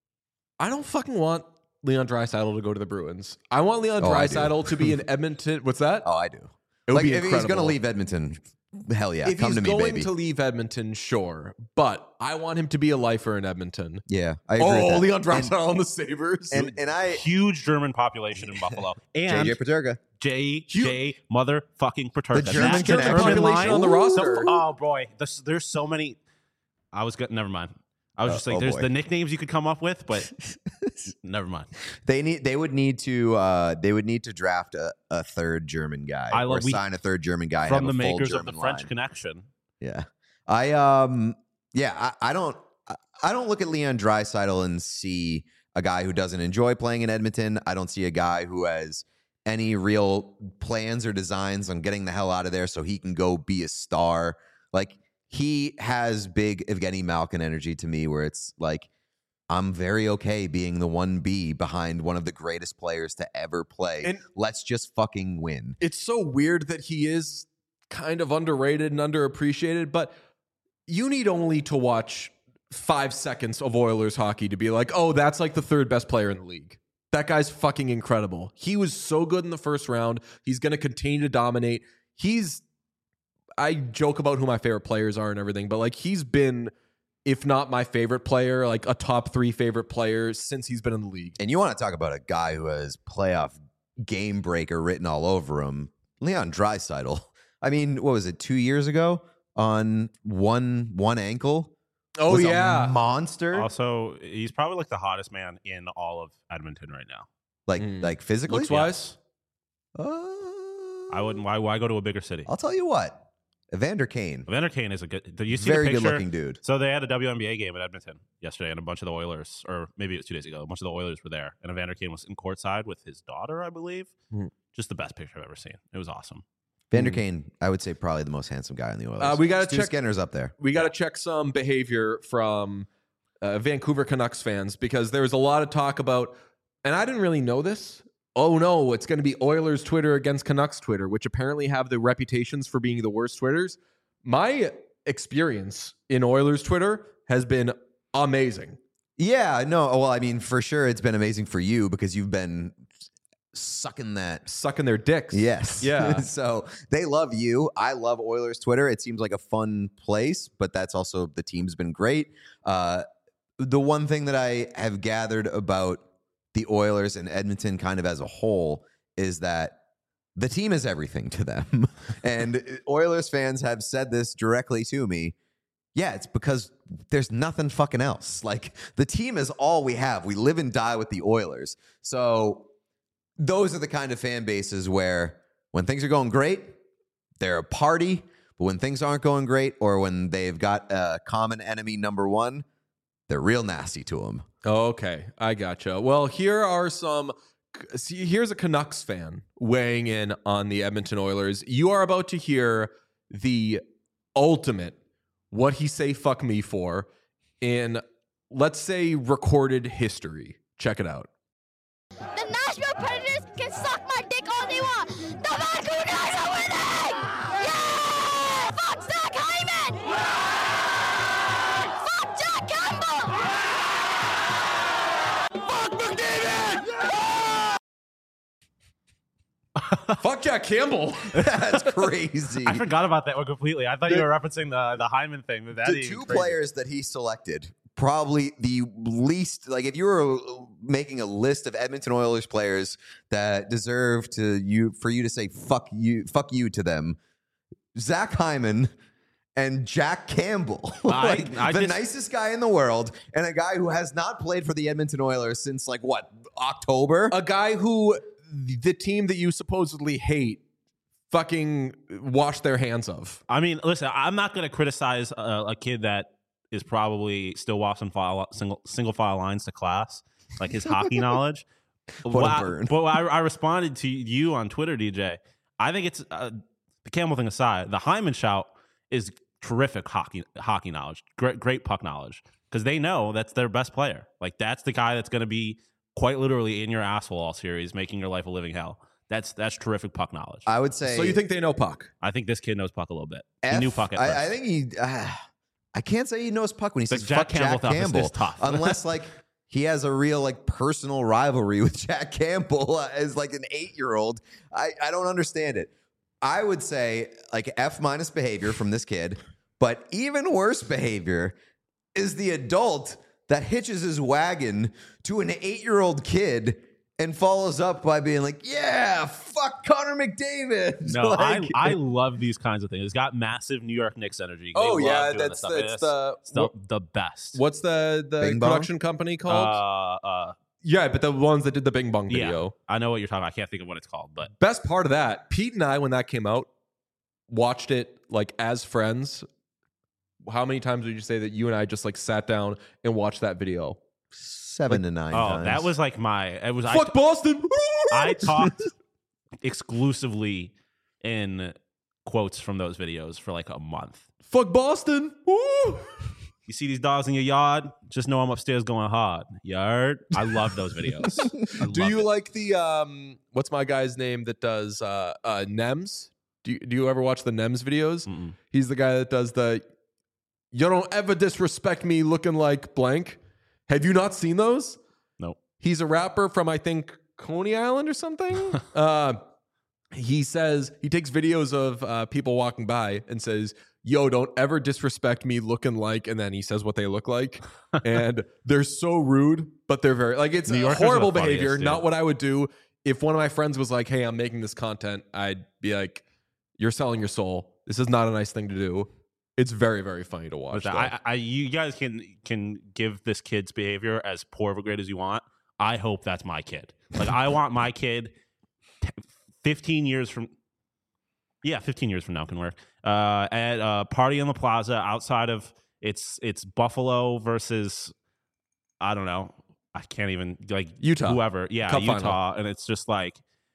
I don't fucking want Leon Draisaitl to go to the Bruins. I want Leon Oh, I do. Draisaitl to be in Edmonton. What's that? Oh, I do. It would like be if he's going to incredible. leave Edmonton, hell yeah, if come he's to me, going baby. to leave Edmonton, sure, but I want him to be a lifer in Edmonton. yeah, I agree with Oh, that. Leon Draisaitl on the Sabres. and, and and I Huge German population in Buffalo. And J J Paterka. J J motherfucking Paterka. The German That connection. population line- on the Ooh, roster. the- oh boy, there's, there's so many. I was good. Never mind. I was Uh, just like, oh, there's boy. the nicknames you could come up with, but never mind. They need. They would need to. Uh, they would need to draft a, a third German guy I or love- we- sign a third German guy From have the a full makers of German the French line. Connection. Yeah, I um, yeah, I, I don't. I, I don't look at Leon Draisaitl and see a guy who doesn't enjoy playing in Edmonton. I don't see a guy who has any real plans or designs on getting the hell out of there so he can go be a star. Like he has big Evgeny Malkin energy to me, where it's like, I'm very okay being the one B behind one of the greatest players to ever play. And- Let's just fucking win. It's so weird that he is kind of underrated and underappreciated, but you need only to watch five seconds of Oilers hockey to be like, oh, that's like the third best player in the league. That guy's fucking incredible. He was so good in the first round. He's going to continue to dominate. He's, I joke about who my favorite players are and everything, but like he's been, if not my favorite player, like a top three favorite player since he's been in the league. And you want to talk about a guy who has playoff game breaker written all over him, Leon Draisaitl. I mean, what was it, two years ago on one one ankle? Oh, Was a yeah. monster. Also, he's probably like the hottest man in all of Edmonton right now. like Mm. like physically. Looks wise. Uh, I wouldn't. Why? Why go to a bigger city? I'll tell you what, Evander Kane, Evander Kane is a good. Did you see very the picture? good-looking dude. So they had a W N B A game at Edmonton yesterday, and a bunch of the Oilers, or maybe it was two days ago, a bunch of the Oilers were there, and Evander Kane was in courtside with his daughter, I believe. Hmm. Just the best picture I've ever seen. It was awesome. Evander Kane, I would say probably the most handsome guy in the Oilers. Uh, we gotta Stu check- Skinner's up there. We got to check some behavior from uh, Vancouver Canucks fans because there was a lot of talk about, and I didn't really know this. Oh no, it's going to be Oilers Twitter against Canucks Twitter, which apparently have the reputations for being the worst Twitters. My experience in Oilers Twitter has been amazing. Yeah, no, well, I mean, for sure, it's been amazing for you because you've been sucking that. Sucking their dicks. Yes. Yeah. So they love you. I love Oilers Twitter. It seems like a fun place, but that's also, the team's been great. Uh, the one thing that I have gathered about the Oilers and Edmonton kind of as a whole is that the team is everything to them. And Oilers fans have said this directly to me. Yeah, it's because there's nothing fucking else. Like, the team is all we have. We live and die with the Oilers. So those are the kind of fan bases where when things are going great, they're a party. But when things aren't going great, or when they've got a common enemy number one, they're real nasty to them. Okay, I gotcha. Well, here are some. See, here's a Canucks fan weighing in on the Edmonton Oilers. You are about to hear the ultimate what he say fuck me for in, let's say, recorded history. Check it out. The Nashville Predators can suck my dick all they want. The Vancouver Canucks are winning! Yeah! Fuck Zach Hyman! Yeah! Fuck Jack Campbell! Yeah! Fuck McDavid! Yeah! Fuck Jack Campbell. That's crazy. I forgot about that one completely. I thought you were referencing the the Hyman thing. That The two players that he selected, probably the least, like if you were making a list of Edmonton Oilers players that deserve to you for you to say fuck you, fuck you to them, Zach Hyman and Jack Campbell, like I, I the just, nicest guy in the world, and a guy who has not played for the Edmonton Oilers since like what, October? A guy who the team that you supposedly hate fucking wash their hands of. I mean, listen, I'm not going to criticize a, a kid that is probably still washing file, single single file lines to class, like his hockey knowledge. What well, a burn. I, but I, I responded to you on Twitter, D J. I think it's uh, the Campbell thing aside. The Hyman shout is terrific hockey hockey knowledge, great great puck knowledge, because they know that's their best player. Like that's the guy that's going to be quite literally in your asshole all series, making your life a living hell. That's that's terrific puck knowledge. I would say. So you think they know puck? I think this kid knows puck a little bit. F, he knew puck at first. I, I think he. Uh, I can't say he knows puck when he But says Jack fuck Campbell Jack thought this Campbell, is tough. unless like he has a real like personal rivalry with Jack Campbell uh, as like an eight year old. I I don't understand it. I would say like F minus behavior from this kid, but even worse behavior is the adult that hitches his wagon to an eight year old kid and follows up by being like, yeah, fuck Connor McDavid. No, like, I I love these kinds of things. It's got massive New York Knicks energy. They Oh, love yeah, doing that's- this stuff. that's It's- the- it's the, the best. What's the the Bing Bong? production company called? Uh, uh, yeah, but the ones that did the Bing Bong video. yeah, I know what you're talking about. I can't think of what it's called, but Best part of that, Pete and I, when that came out, watched it like as friends. How many times would you say that you and I just like sat down and watched that video? seven to nine oh, times. that was like my. It was Fuck I, Boston. I talked exclusively in quotes from those videos for like a month. Fuck Boston. Woo! You see these dogs in your yard? Just know I'm upstairs going hard. Yard. I love those videos. I Do love you it. like the um? What's my guy's name that does uh uh Nems? Do you, do you ever watch the Nems videos? Mm-mm. He's the guy that does the. You don't ever disrespect me looking like blank. Have you not seen those? Nope. He's a rapper from I think Coney Island or something. uh, he says he takes videos of uh, people walking by and says, "Yo, don't ever disrespect me looking like," and then he says what they look like, and they're so rude, but they're very like it's New Yorkers horrible are the funniest, behavior. dude. Not what I would do if one of my friends was like, "Hey, I'm making this content." I'd be like, "You're selling your soul. This is not a nice thing to do." It's very, very funny to watch. But though. I, I, you guys can can give this kid's behavior as poor of a grade as you want. I hope that's my kid. Like I want my kid, t- fifteen years from, Yeah, fifteen years from now can work. Uh, at a party in the plaza outside of it's it's Buffalo versus I don't know. I can't even like Utah. Whoever, yeah, Cup Utah, final. and it's just like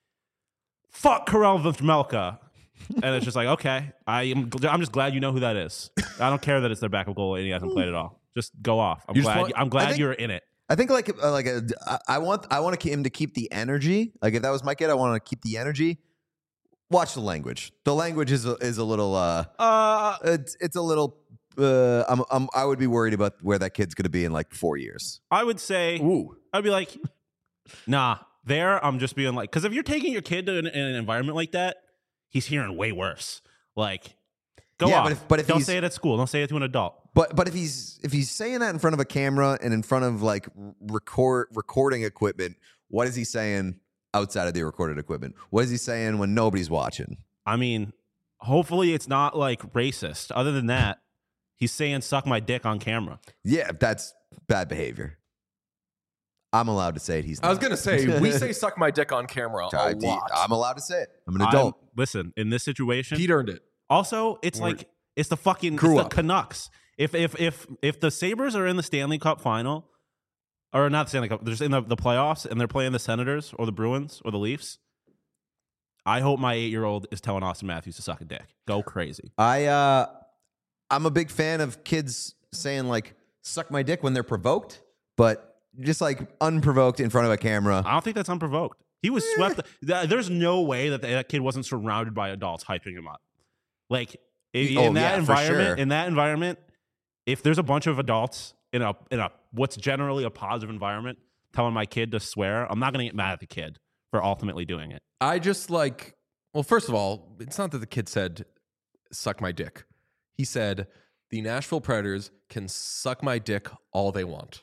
fuck Karel Vejmelka. And it's just like, okay, I am. Gl- I'm just glad you know who that is. I don't care that it's their backup goalie and he hasn't played at all. Just go off. I'm You just glad. want- I'm glad think- you're in it. I think like uh, like a, I- I want I want him to keep the energy. Like if that was my kid, I want to keep the energy. Watch the language. The language is a, is a little uh Uh, it's it's a little uh I'm, I'm I would be worried about where that kid's going to be in like four years. I would say, Ooh. I'd be like, nah. There, I'm just being like, because if you're taking your kid to an, in an environment like that, he's hearing way worse. Like, go Yeah, off. but if- but if don't he's- say it at school. Don't say it to an adult. But but if he's if he's saying that in front of a camera and in front of like record recording equipment, what is he saying outside of the recorded equipment? What is he saying when nobody's watching? I mean, hopefully it's not like racist. Other than that, he's saying "suck my dick" on camera. Yeah, that's bad behavior. I'm allowed to say it. He's. I was not. gonna say we say "suck my dick" on camera a I- lot. I'm allowed to say it. I'm an I'm- adult. listen, in this situation, Pete earned it. also it's We're- like it's the fucking Grew it's up. the Canucks. If if if if the Sabres are in the Stanley Cup final, or not the Stanley Cup, they're just in the, the playoffs and they're playing the Senators or the Bruins or the Leafs. I hope my eight year old is telling Austin Matthews to suck a dick. Go crazy. I uh, I'm a big fan of kids saying like "suck my dick" when they're provoked, but just like unprovoked in front of a camera. I don't think that's unprovoked. He was swept. Th- There's no way that that kid wasn't surrounded by adults hyping him up. Like in, Oh, in that yeah, for environment, sure. in that environment, if there's a bunch of adults in a in a what's generally a positive environment telling my kid to swear, I'm not going to get mad at the kid for ultimately doing it. I just like, well, first of all, it's not that the kid said, suck my dick. He said, the Nashville Predators can suck my dick all they want.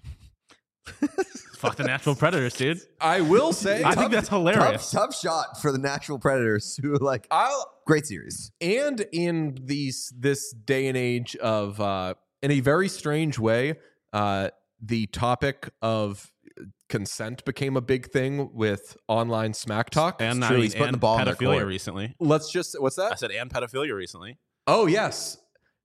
Fuck the Nashville Predators, dude. I will say, I think that's hilarious. Tough, tough shot for the Nashville Predators, who like I'll, great series. and in these this day and age of, uh, in a very strange way, uh, the topic of consent became a big thing with online smack talk. And I true, mean, he's putting and the ball in their pedophilia court. recently. Let's just, what's I that? said and pedophilia recently. Oh, yes.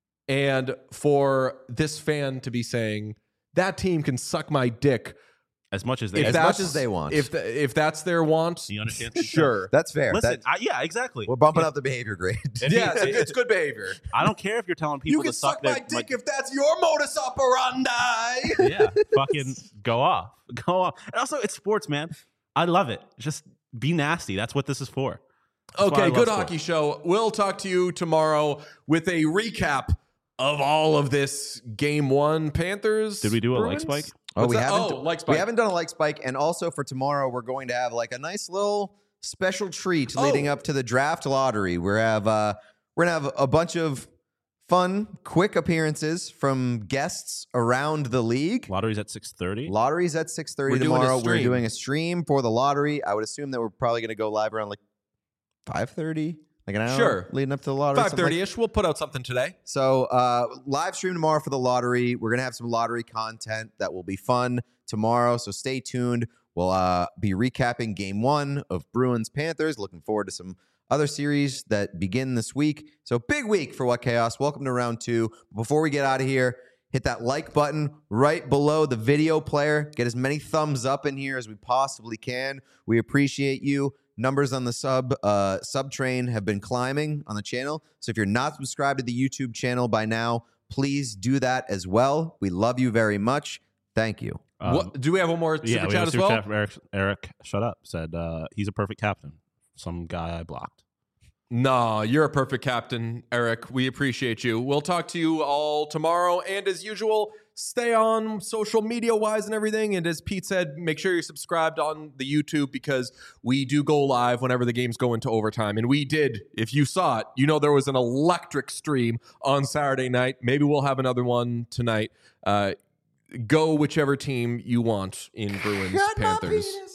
And for this fan to be saying, that team can suck my dick. As much as they, As that's- much as they want. If the, if that's their want, you understand? sure. That's fair. Listen, That- I, yeah, exactly. we're bumping up the behavior grade. If Yeah, you- it's, it's good behavior. I don't care if you're telling people You can to suck, suck my their, dick if that's your modus operandi. yeah, fucking go off, go off. And also, it's sports, man. I love it. Just be nasty. That's what this is for. That's why I Okay, love good sports. hockey show. We'll talk to you tomorrow with a recap of all of this game one. Panthers. Did we do a like Bruins? spike? Oh, What's we that? haven't. Oh, like spike. We haven't done a like spike, and also for tomorrow, we're going to have like a nice little special treat Oh. leading up to the draft lottery. We have uh, we're gonna have a bunch of fun, quick appearances from guests around the league. Lottery's at six thirty. Lottery's at six thirty We're doing a tomorrow. We're stream. doing a stream for the lottery. I would assume that we're probably going to go live around like five thirty, like an hour Sure. leading up to the lottery. five something like thirty ish. We'll put out something today. So uh, live stream tomorrow for the lottery. We're gonna have some lottery content that will be fun tomorrow. So stay tuned. We'll uh, be recapping game one of Bruins Panthers. Looking forward to some other series that begin this week. So big week for What Chaos. Welcome to round two. Before we get out of here, hit that like button right below the video player. Get as many thumbs up in here as we possibly can. We appreciate you. Numbers on the sub uh, sub train have been climbing on the channel. So if you're not subscribed to the YouTube channel by now, please do that as well. We love you very much. Thank you. Um, what, do we have one more super yeah, we chat have a as super well? chat from Eric, Eric, shut up. Said uh, he's a perfect captain. Some guy I blocked. No, you're a perfect captain, Eric. We appreciate you. We'll talk to you all tomorrow. And as usual, stay on social media wise and everything. And as Pete said, make sure you're subscribed on the YouTube because we do go live whenever the games go into overtime. And we did. If you saw it, you know there was an electric stream on Saturday night. Maybe we'll have another one tonight. Uh, go whichever team you want in Bruins Panthers.